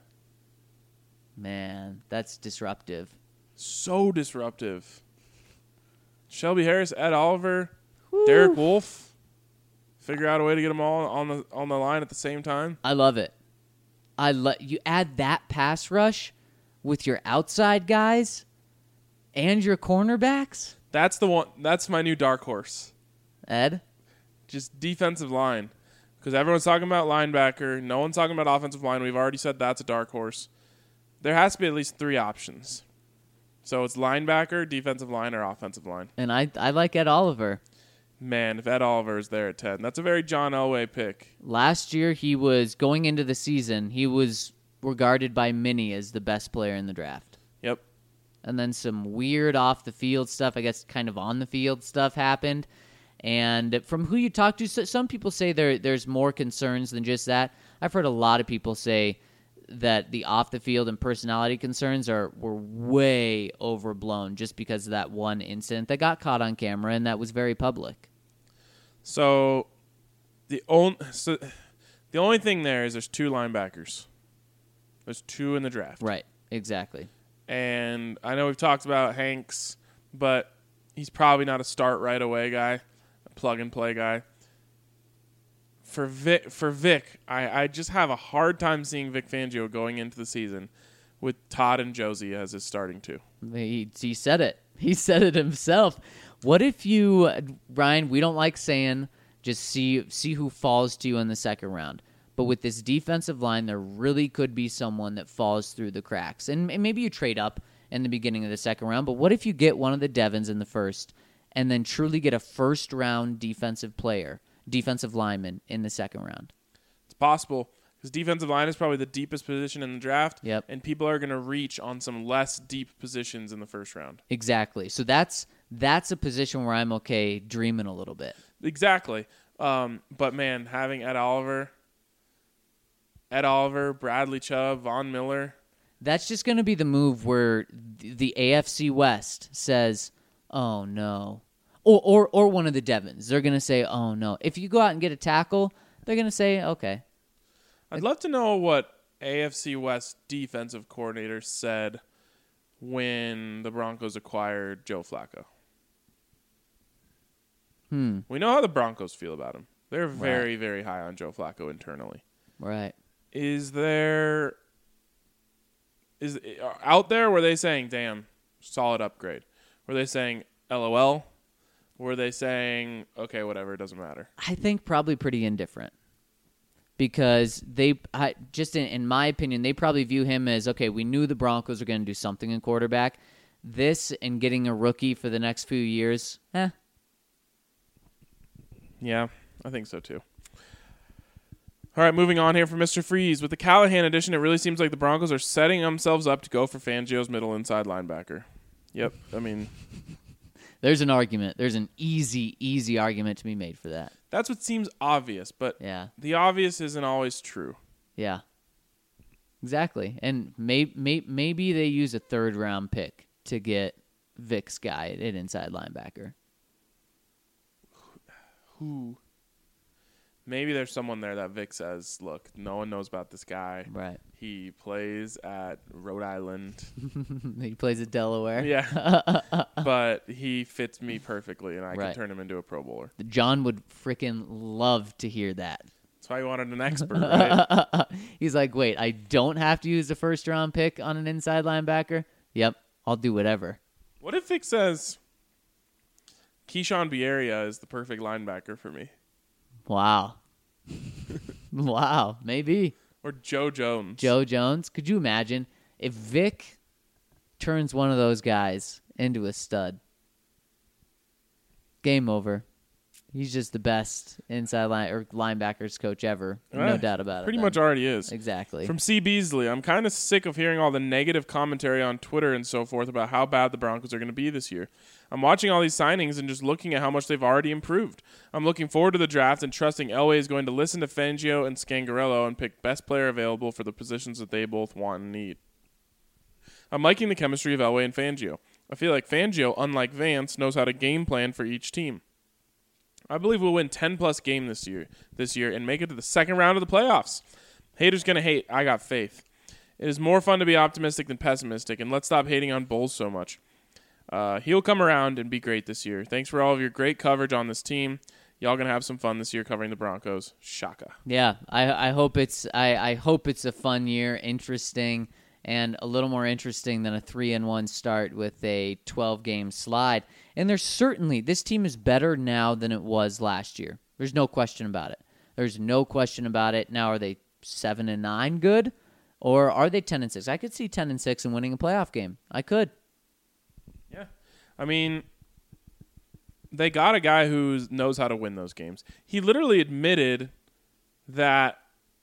Man, that's disruptive. So disruptive. Shelby Harris, Ed Oliver, Derek Wolfe. Figure out a way to get them all on the line at the same time. I love it. You add that pass rush with your outside guys and your cornerbacks. That's the one. That's my new dark horse. Ed? Just defensive line. Because everyone's talking about linebacker. No one's talking about offensive line. We've already said that's a dark horse. There has to be at least 3 options. So it's linebacker, defensive line, or offensive line. And I like Ed Oliver. Man, if Ed Oliver is there at 10, that's a very John Elway pick. Last year, he was going into the season, he was regarded by many as the best player in the draft. Yep. And then some weird off-the-field stuff, I guess kind of on-the-field stuff happened. And from who you talk to, some people say there's more concerns than just that. I've heard a lot of people say that the off-the-field and personality concerns were way overblown just because of that one incident that got caught on camera and that was very public. So the only thing there is there's 2 linebackers. There's 2 in the draft. Right, exactly. And I know we've talked about Hanks, but he's probably not a start right away guy, a plug-and-play guy. For Vic, I just have a hard time seeing Vic Fangio going into the season with Todd and Josie as his starting 2. He said it. He said it himself. What if you, Ryan, we don't like saying just see who falls to you in the second round. But with this defensive line, there really could be someone that falls through the cracks. And maybe you trade up in the beginning of the second round. But what if you get one of the Devons in the first and then truly get a first-round defensive lineman in the second round? It's possible because defensive line is probably the deepest position in the draft. Yep. And people are going to reach on some less deep positions in the first round. Exactly. So that's a position where I'm okay dreaming a little bit. Exactly. But, man, having Ed Oliver, Bradley Chubb, Von Miller. That's just going to be the move where the AFC West says, oh, no. Or one of the Devons. They're going to say, oh, no. If you go out and get a tackle, they're going to say, okay. I'd love to know what AFC West defensive coordinator said when the Broncos acquired Joe Flacco. We know how the Broncos feel about him. They're very, very high on Joe Flacco internally. Right. Is out there, were they saying, damn, solid upgrade? Were they saying, LOL? Were they saying, okay, whatever, it doesn't matter? I think probably pretty indifferent. Because in my opinion, they probably view him as, okay, we knew the Broncos were going to do something in quarterback. This and getting a rookie for the next few years, Yeah, I think so too. All right, moving on here for Mr. Freeze. With the Callahan addition, it really seems like the Broncos are setting themselves up to go for Fangio's middle inside linebacker. Yep, I mean... There's an argument. There's an easy argument to be made for that. That's what seems obvious, but yeah. The obvious isn't always true. Yeah, exactly. And maybe they use a third-round pick to get Vic's guy at inside linebacker. Who? Maybe there's someone there that Vic says, look, no one knows about this guy. Right. He plays at Rhode Island. He plays at Delaware. Yeah. But he fits me perfectly, and I can turn him into a Pro Bowler. John would freaking love to hear that. That's why he wanted an expert, right? He's like, wait, I don't have to use the first-round pick on an inside linebacker? Yep, I'll do whatever. What if Vic says, Keyshawn Bierria is the perfect linebacker for me? Wow. Wow, maybe. Or Joe Jones. Joe Jones. Could you imagine if Vic turns one of those guys into a stud? Game over. He's just the best inside linebackers coach ever. No doubt about it. Pretty much already is. Exactly. From C. Beasley, I'm kind of sick of hearing all the negative commentary on Twitter and so forth about how bad the Broncos are going to be this year. I'm watching all these signings and just looking at how much they've already improved. I'm looking forward to the draft and trusting Elway is going to listen to Fangio and Scangarello and pick best player available for the positions that they both want and need. I'm liking the chemistry of Elway and Fangio. I feel like Fangio, unlike Vance, knows how to game plan for each team. I believe we'll win 10-plus games this year and make it to the second round of the playoffs. Haters going to hate. I got faith. It is more fun to be optimistic than pessimistic, and let's stop hating on Bowles so much. He'll come around and be great this year. Thanks for all of your great coverage on this team. Y'all going to have some fun this year covering the Broncos. Shaka. Yeah, I hope it's a fun year, interesting, and a little more interesting than a 3-1 start with a 12-game slide. And this team is better now than it was last year. There's no question about it. Now, are they 7-9 good, or are they 10-6? I could see 10-6 and winning a playoff game. I could. Yeah, I mean, they got a guy who knows how to win those games. He literally admitted that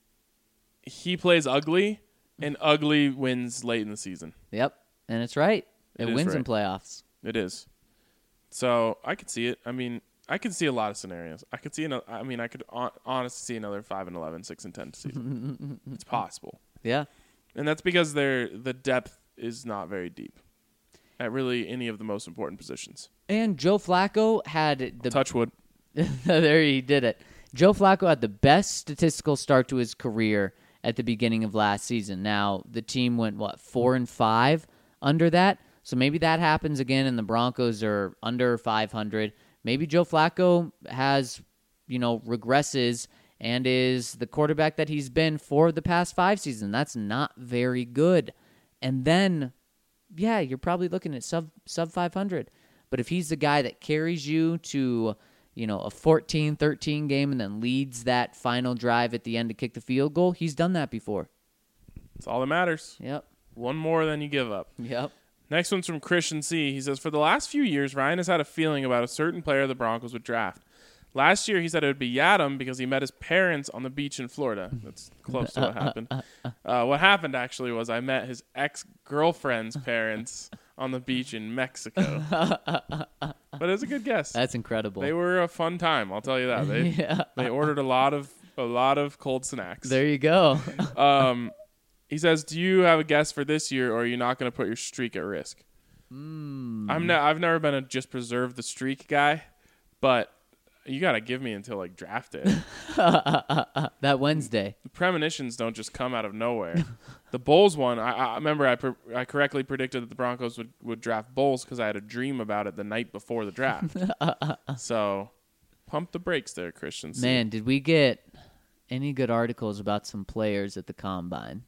he plays ugly, and ugly wins late in the season. Yep, and it's right. It wins in playoffs. It is. So I could see it. I mean, I could see a lot of scenarios. I could honestly see another 5-11, 6-10 season. It's possible. Yeah, and that's because the depth is not very deep at really any of the most important positions. And Joe Flacco had the touch wood. There he did it. Joe Flacco had the best statistical start to his career at the beginning of last season. Now the team went 4-5 under that. So maybe that happens again, and the Broncos are under 500. Maybe Joe Flacco has, regresses and is the quarterback that he's been for the past 5 seasons. That's not very good. And then, yeah, you're probably looking at sub 500. But if he's the guy that carries you to, a 14-13 game and then leads that final drive at the end to kick the field goal, he's done that before. That's all that matters. Yep. One more than you give up. Yep. Next one's from Christian C. He says, for the last few years, Ryan has had a feeling about a certain player the Broncos would draft. Last year, he said it would be Yadam because he met his parents on the beach in Florida. That's close to what happened. What happened, actually, was I met his ex-girlfriend's parents on the beach in Mexico. But it was a good guess. That's incredible. They were a fun time, I'll tell you that. They ordered a lot of cold snacks. There you go. He says, do you have a guess for this year, or are you not going to put your streak at risk? I've never been a just preserve the streak guy, but you got to give me until draft day. That Wednesday. The premonitions don't just come out of nowhere. The Bowles one, I remember I correctly predicted that the Broncos would draft Bowles because I had a dream about it the night before the draft. So pump the brakes there, Christian. Man, did we get any good articles about some players at the Combine?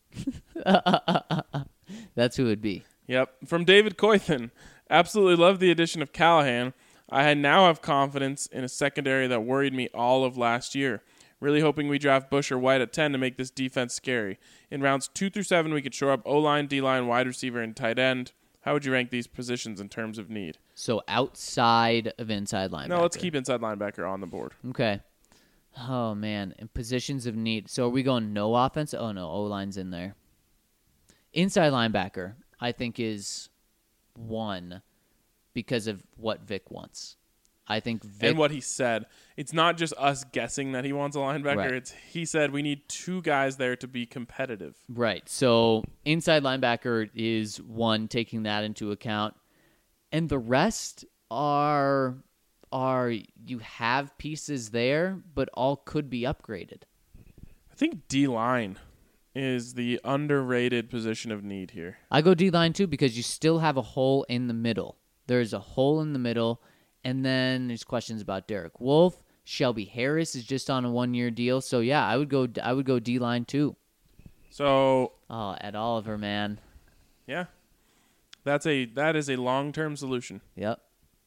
That's who it would be. Yep. From David Coythan. Absolutely love the addition of Callahan. I now have confidence in a secondary that worried me all of last year. Really hoping we draft Bush or White at 10 to make this defense scary. In rounds 2 through 7, we could shore up O-line, D-line, wide receiver, and tight end. How would you rank these positions in terms of need? So outside of inside linebacker. No, let's keep inside linebacker on the board. Okay. Oh, man. In positions of need. So are we going no offense? Oh, no. O-line's in there. Inside linebacker, I think, is 1 because of what Vic wants. I think Vic... And what he said. It's not just us guessing that he wants a linebacker. Right. He said we need 2 guys there to be competitive. Right. So inside linebacker is 1, taking that into account. And the rest are you have pieces there, but all could be upgraded. I think D-line is the underrated position of need here. I go D-line too because you still have a hole in the middle. There's a hole in the middle, and then there's questions about Derek Wolfe. Shelby Harris is just on a 1-year deal, so yeah, I would go D-line too. So Ed Oliver, man. Yeah, that is a long-term solution. Yep.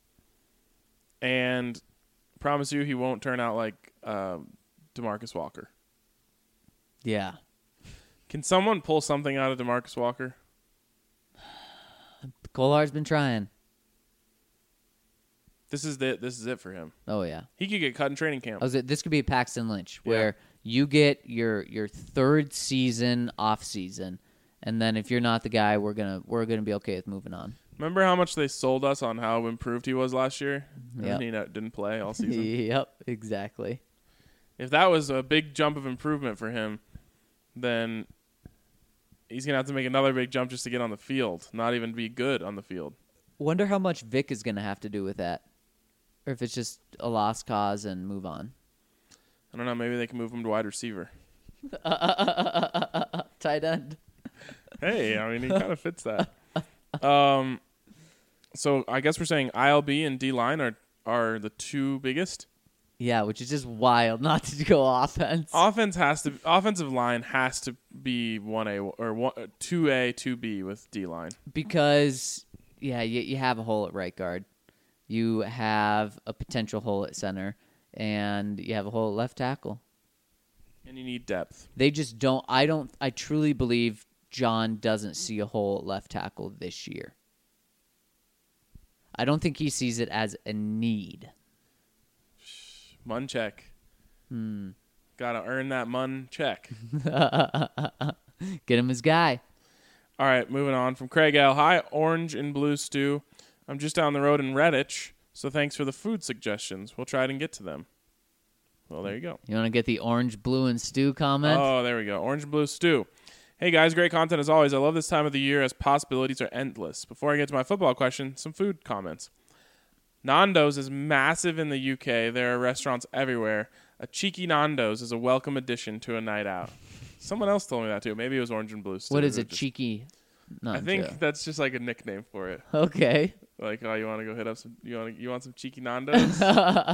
And promise you, he won't turn out like DeMarcus Walker. Yeah. Can someone pull something out of DeMarcus Walker? Kolar's been trying. This is it for him. Oh yeah. He could get cut in training camp. This could be a Paxton Lynch where you get your 3rd season off season, and then if you're not the guy, we're gonna be okay with moving on. Remember how much they sold us on how improved he was last year? Yeah. And he didn't play all season. Yep, exactly. If that was a big jump of improvement for him, then he's going to have to make another big jump just to get on the field, not even be good on the field. Wonder how much Vic is going to have to do with that. Or if it's just a lost cause and move on. I don't know. Maybe they can move him to wide receiver. Tight end. Hey, I mean, he kind of fits that. So I guess we're saying ILB and D-line are the two biggest. Yeah, which is just wild not to go offense. Offensive line has to be 1A or 2A, 2B with D-line. Because, yeah, you have a hole at right guard. You have a potential hole at center. And you have a hole at left tackle. And you need depth. They just don't. I truly believe John doesn't see a hole at left tackle this year. I don't think he sees it as a need. Mun check. Gotta earn that Mun check. Get him his guy. All right, moving on from Craig L. Hi, Orange and Blue Stew. I'm just down the road in Redditch, so thanks for the food suggestions. We'll try and get to them. Well, there you go. You want to get the orange, blue, and stew comment? Oh, there we go. Orange and Blue Stew. Hey, guys, great content as always. I love this time of the year as possibilities are endless. Before I get to my football question, some food comments. Nando's is massive in the UK. There are restaurants everywhere. A cheeky Nando's is a welcome addition to a night out. Someone else told me that, too. Maybe it was Orange and Blue Stew. What is a cheeky Nando? I think that's just like a nickname for it. Okay. Like, oh, you want to go hit up some? You want some cheeky Nando's?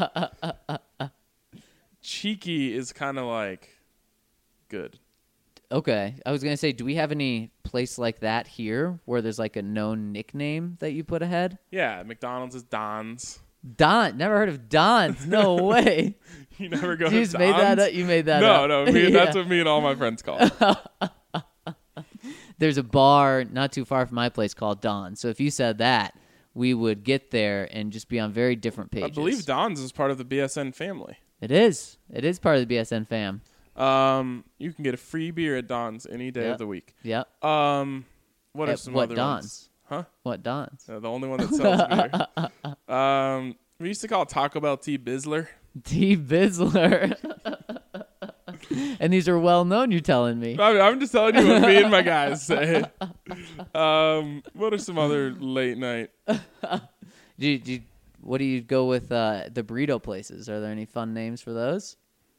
Cheeky is kind of like good. Okay. I was going to say, do we have any place like that here where there's like a known nickname that you put ahead? Yeah, McDonald's is Don's. Don. Never heard of Don's. No way. You never go to You Don's? just made that up? You made that up. No. That's what me and all my friends call it. There's a bar not too far from my place called Don's. So if you said that, we would get there and just be on very different pages. I believe Don's is part of the BSN family. It is. It is part of the BSN fam. You can get a free beer at Don's any day of the week. Yep. What are some other Don's? ones? Huh? What Don's? The only one that sells beer. We used to call Taco Bell T. Bizzler. T. Bizzler. And these are well known, you're telling me. I'm just telling you what me and my guys say. What are some other late night? What do you go with the burrito places? Are there any fun names for those?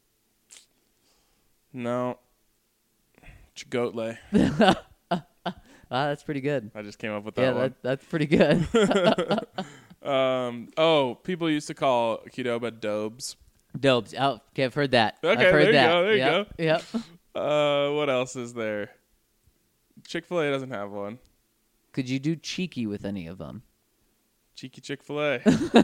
No. Chipotle. That's pretty good. I just came up with that one. That's pretty good. People used to call Qdoba Dobes. Dobes. Oh, okay, I've heard that. Okay, I've heard there you that. go. There you go. Yep. What else is there? Chick-fil-A doesn't have one. Could you do cheeky with any of them? Cheeky Chick-fil-A.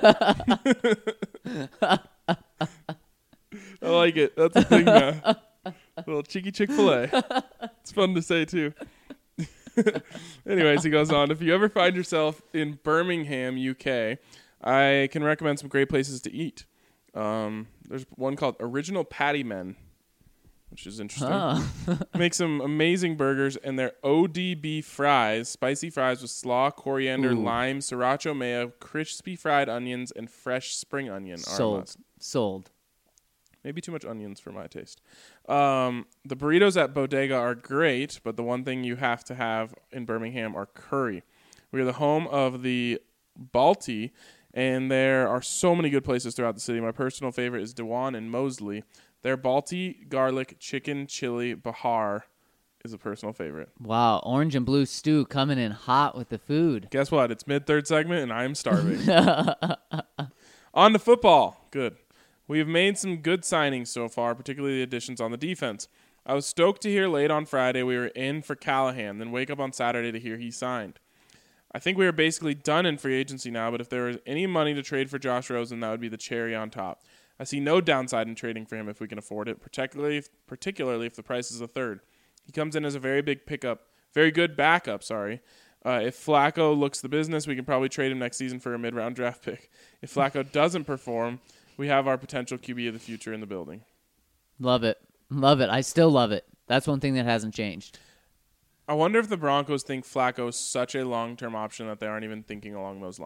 I like it. That's a thing now. A little cheeky Chick-fil-A. It's fun to say, too. Anyways, he goes on. If you ever find yourself in Birmingham, UK, I can recommend some great places to eat. There's one called Original Patty Men, which is interesting. Make some amazing burgers, and their ODB fries, spicy fries with slaw, coriander, lime, sriracha mayo, crispy fried onions, and fresh spring onion are a must. Sold. Maybe too much onions for my taste. The burritos at Bodega are great, but the one thing you have to have in Birmingham are curry. We are the home of the Balti, and there are so many good places throughout the city. My personal favorite is Dewan and Mosley. Their Balti garlic chicken chili bahar is a personal favorite. Wow, orange and blue stew coming in hot with the food. Guess what? It's mid-third segment, and I am starving. On to football. Good. We have made some good signings so far, particularly the additions on the defense. I was stoked to hear late on Friday we were in for Callahan, then wake up on Saturday to hear he signed. I think we are basically done in free agency now, but if there is any money to trade for Josh Rosen, that would be the cherry on top. I see no downside in trading for him if we can afford it, particularly if the price is a third. He comes in as a very good backup. If Flacco looks the business, we can probably trade him next season for a mid-round draft pick. If Flacco doesn't perform, we have our potential QB of the future in the building. Love it. Love it. I still love it. That's one thing that hasn't changed. I wonder if the Broncos think Flacco is such a long-term option that they aren't even thinking along those lines.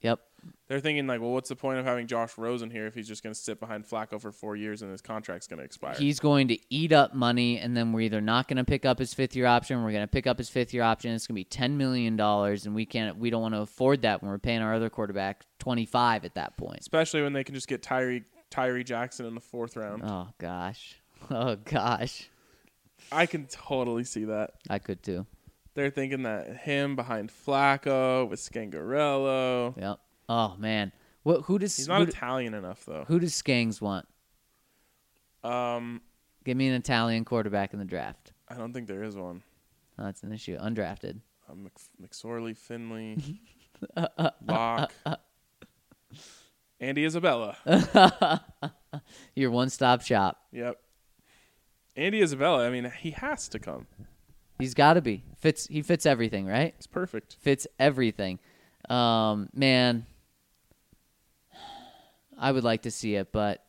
Yep. They're thinking like, well, what's the point of having Josh Rosen here if he's just going to sit behind Flacco for 4 years and his contract's going to expire? He's going to eat up money, and then we're either not going to pick up his fifth-year option, we're going to pick up his fifth-year option. It's going to be $10 million, and we don't want to afford that when we're paying our other quarterback $25 at that point. Especially when they can just get Tyree Jackson in the 4th round. Oh, gosh. Oh, gosh. I can totally see that. I could, too. They're thinking that him behind Flacco with Scangarello. Yep. Oh, man. He's not Italian enough, though. Who does Skangs want? Give me an Italian quarterback in the draft. I don't think there is one. Oh, that's an issue. Undrafted. McSorley, Finley, Locke, Andy Isabella. Your one-stop shop. Yep. Andy Isabella, I mean, he has to come. He's got to be. He fits everything, right? It's perfect. Fits everything. Man, I would like to see it, but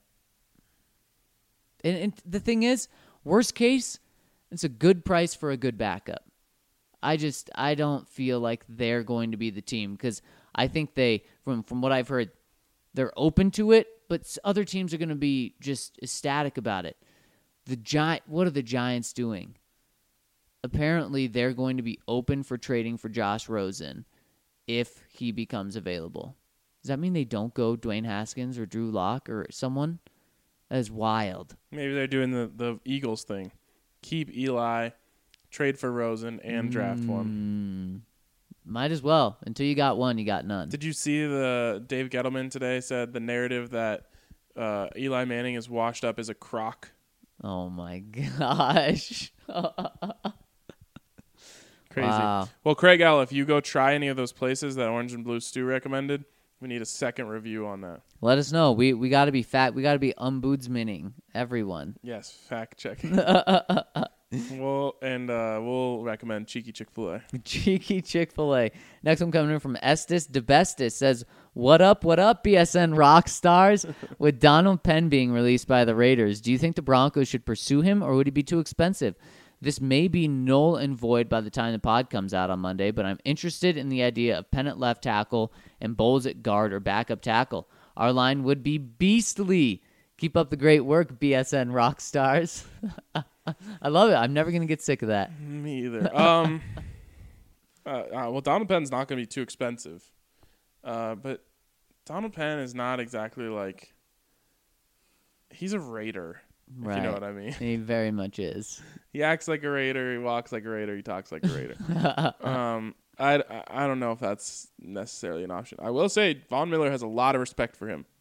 and the thing is, worst case, it's a good price for a good backup. I don't feel like they're going to be the team because I think they, from what I've heard, they're open to it, but other teams are going to be just ecstatic about it. What are the Giants doing? Apparently, they're going to be open for trading for Josh Rosen if he becomes available. Does that mean they don't go Dwayne Haskins or Drew Lock or someone? That is wild. Maybe they're doing the Eagles thing. Keep Eli, trade for Rosen, and draft one. Might as well. Until you got one, you got none. Did you see the Dave Gettleman today said the narrative that Eli Manning is washed up as a crock? Oh, my gosh. Crazy. Wow. Well, Craig L., if you go try any of those places that Orange and Blue Stu recommended, we need a second review on that. Let us know. We got to be fat. We got to be ombudsmaning everyone. Yes, fact checking. We'll recommend Cheeky Chick-fil-A. Cheeky Chick-fil-A. Next one coming in from Estes DeBestis says, what up, BSN rock stars? With Donald Penn being released by the Raiders, do you think the Broncos should pursue him, or would he be too expensive? This may be null and void by the time the pod comes out on Monday, but I'm interested in the idea of Penn at left tackle and Bowles at guard or backup tackle. Our line would be beastly. Keep up the great work, BSN rock stars. I love it. I'm never going to get sick of that. Me either. Well, Donald Penn's not going to be too expensive. But Donald Penn is not exactly like... He's a Raider. Right. If you know what I mean. He very much is. He acts like a Raider. He walks like a Raider. He talks like a Raider. I don't know if that's necessarily an option. I will say Von Miller has a lot of respect for him.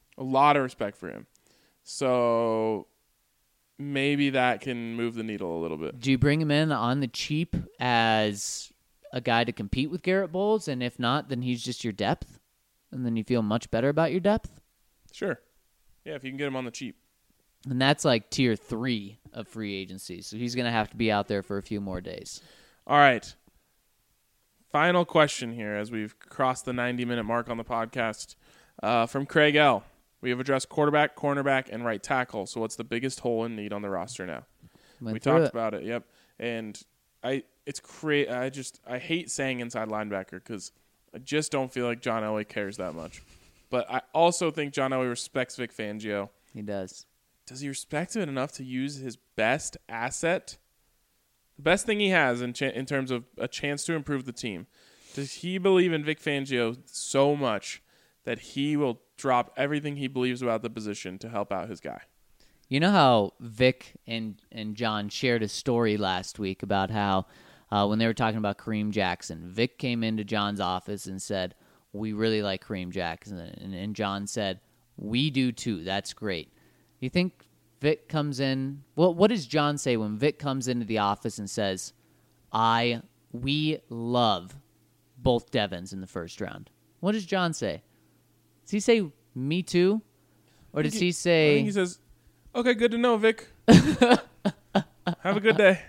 So maybe that can move the needle a little bit. Do you bring him in on the cheap as a guy to compete with Garrett Bowles? And if not, then he's just your depth? And then you feel much better about your depth? Sure. Yeah, if you can get him on the cheap. And that's like tier 3 of free agency. So he's going to have to be out there for a few more days. All right. Final question here as we've crossed the 90-minute mark on the podcast. From Craig L. We have addressed quarterback, cornerback, and right tackle. So what's the biggest hole in need on the roster now? We talked about it, yep. And I hate saying inside linebacker because I just don't feel like John Elway cares that much. But I also think John Elway respects Vic Fangio. He does. Does he respect it enough to use his best asset? The best thing he has in terms of a chance to improve the team. Does he believe in Vic Fangio so much that he will drop everything he believes about the position to help out his guy? You know how Vic and John shared a story last week about how when they were talking about Kareem Jackson, Vic came into John's office and said, we really like Kareem Jackson. And John said, we do too. That's great. You think Vic comes in? Well, what does John say when Vic comes into the office and says, we love both Devons in the first round? What does John say? Does he say, me too? Or does he say... I think he says, okay, good to know, Vic. Have a good day.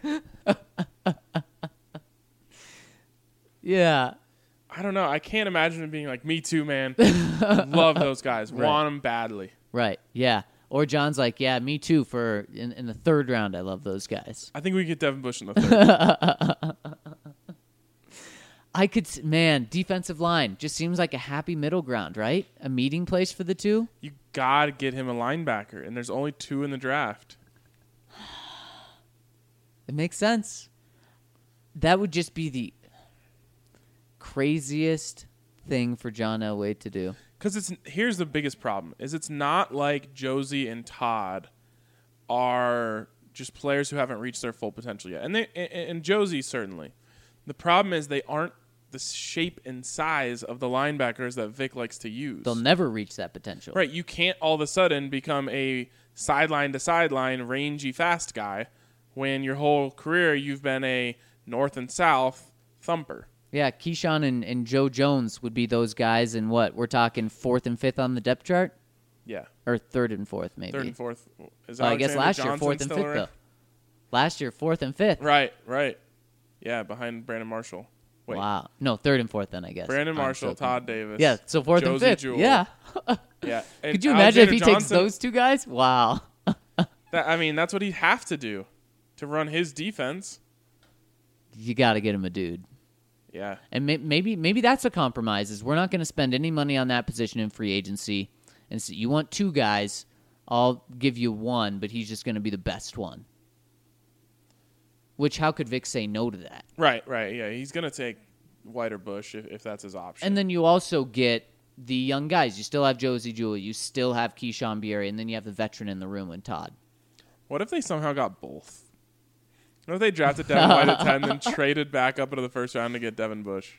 Yeah. I don't know. I can't imagine him being like, me too, man. Love those guys. Right. Want them badly. Right, yeah. Or John's like, yeah, me too. For in the third round, I love those guys. I think we get Devin Bush in the third. defensive line just seems like a happy middle ground, right? A meeting place for the two. You got to get him a linebacker, and there's only 2 in the draft. It makes sense. That would just be the craziest thing for John Elway to do. Because here's the biggest problem, is it's not like Josie and Todd are just players who haven't reached their full potential yet. And Josie, certainly. The problem is they aren't the shape and size of the linebackers that Vic likes to use. They'll never reach that potential. Right. You can't all of a sudden become a sideline-to-sideline, rangy, fast guy when your whole career you've been a north and south thumper. Yeah, Keyshawn and Joe Jones would be those guys, and what? We're talking 4th and 5th on the depth chart? Yeah. Or 3rd and 4th, maybe. 3rd and 4th. Is I guess last Johnson year, 4th and 5th, around? though. Last year, 4th and 5th. Right. Yeah, behind Brandon Marshall. Wait. Wow. No, 3rd and 4th then, I guess. Brandon Marshall, Todd Davis. Yeah, so 4th and Josie 5th. Jewell. Yeah. Yeah. And Could you imagine if Alexander he takes Johnson, those two guys? Wow. that's what he'd have to do to run his defense. You got to get him a dude. Yeah. And maybe that's a compromise, is we're not going to spend any money on that position in free agency. And so you want 2 guys, I'll give you 1, but he's just going to be the best one. Which, how could Vic say no to that? Right. Yeah, he's going to take White or Bush if that's his option. And then you also get the young guys. You still have Josie Jewell. You still have Keyshawn Bierry. And then you have the veteran in the room in Todd. What if they somehow got both? What if they drafted Devin White at 10, then traded back up into the first round to get Devin Bush?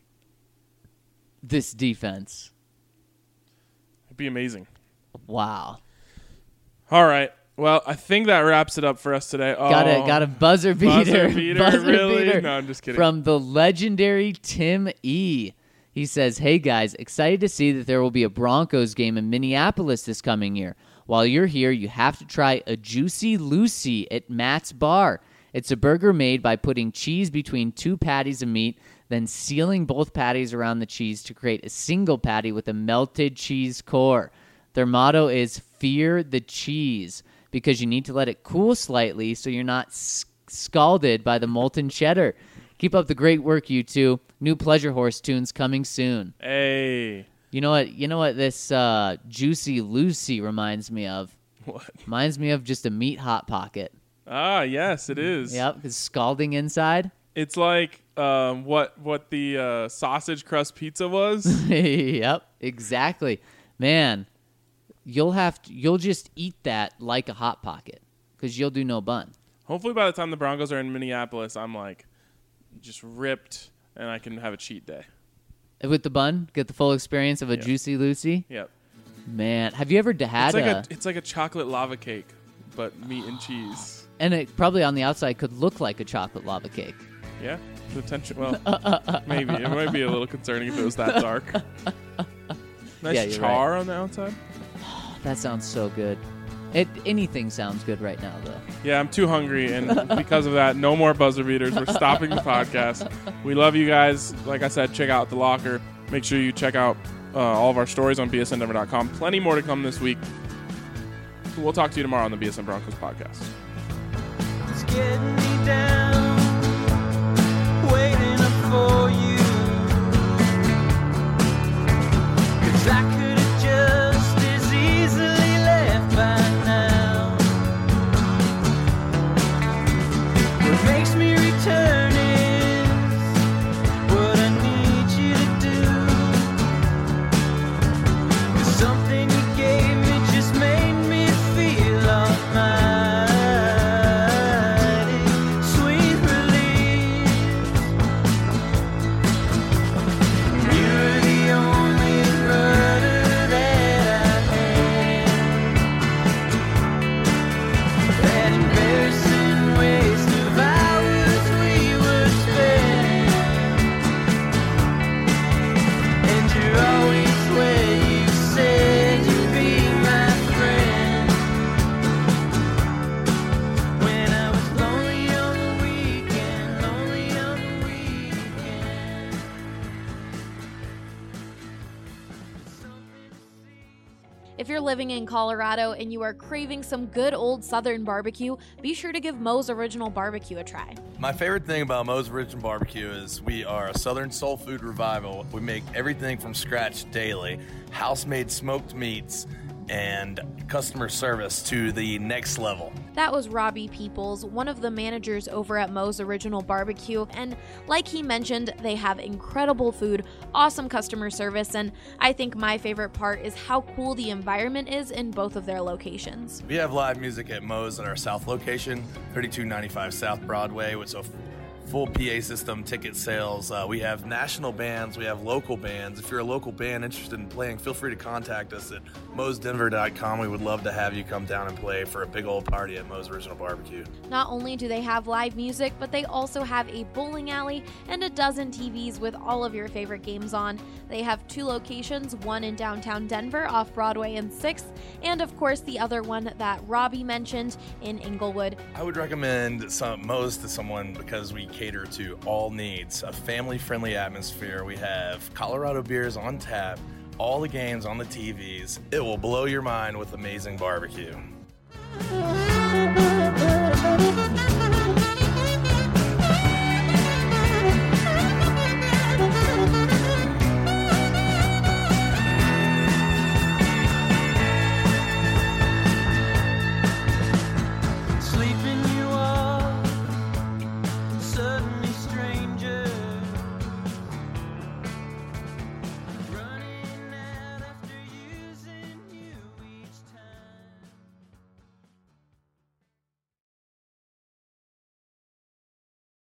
This defense. It'd be amazing. Wow. All right. Well, I think that wraps it up for us today. Oh, Got a buzzer beater. Buzzer beater? No, I'm just kidding. From the legendary Tim E. He says, "Hey guys, excited to see that there will be a Broncos game in Minneapolis this coming year. While you're here, you have to try a Juicy Lucy at Matt's Bar. It's a burger made by putting cheese between 2 patties of meat, then sealing both patties around the cheese to create a single patty with a melted cheese core. Their motto is fear the cheese, because you need to let it cool slightly so you're not scalded by the molten cheddar. Keep up the great work, you two. New Pleasure Horse tunes coming soon." Hey. You know what this Juicy Lucy reminds me of? What? Reminds me of just a meat Hot Pocket. Ah, yes, it is. Yep, it's scalding inside. It's like what the sausage crust pizza was. Yep, exactly. Man, you'll just eat that like a Hot Pocket because you'll do no bun. Hopefully by the time the Broncos are in Minneapolis, I'm like just ripped and I can have a cheat day. With the bun, get the full experience of a Juicy Lucy. Yep. Man, have you ever had it's like a chocolate lava cake, but meat and cheese. And it probably on the outside could look like a chocolate lava cake. Yeah, potential. Well, maybe it might be a little concerning if it was that dark. Nice char on the outside. That sounds so good. Anything sounds good right now, though. Yeah, I'm too hungry, and because of that, no more buzzer beaters. We're stopping the podcast. We love you guys. Like I said, check out The Locker. Make sure you check out all of our stories on bsndenver.com. Plenty more to come this week. We'll talk to you tomorrow on the BSN Broncos podcast. It's getting me down, waiting up for you. 'Cause I could have just as easily left by now. What makes me return is what I need you to do. 'Cause something you gave me just made me feel almighty sweet. If you're living in Colorado and you are craving some good old Southern barbecue, be sure to give Moe's Original Barbecue a try. My favorite thing about Moe's Original Barbecue is we are a Southern soul food revival. We make everything from scratch daily, house-made smoked meats, and customer service to the next level. That was Robbie Peoples, one of the managers over at Moe's Original Barbecue, and like he mentioned, they have incredible food, awesome customer service, and I think my favorite part is how cool the environment is in both of their locations. We have live music at Moe's at our South location, 3295 South Broadway, with a full PA system, ticket sales. We have national bands, we have local bands. If you're a local band interested in playing, feel free to contact us at moesdenver.com. We would love to have you come down and play for a big old party at Moe's Original Barbecue. Not only do they have live music, but they also have a bowling alley and a dozen TVs with all of your favorite games on. They have 2 locations, one in downtown Denver off Broadway and 6th, and of course the other one that Robbie mentioned in Inglewood. I would recommend Moe's to someone because we cater to all needs, a family-friendly atmosphere. We have Colorado beers on tap, all the games on the TVs. It will blow your mind with amazing barbecue.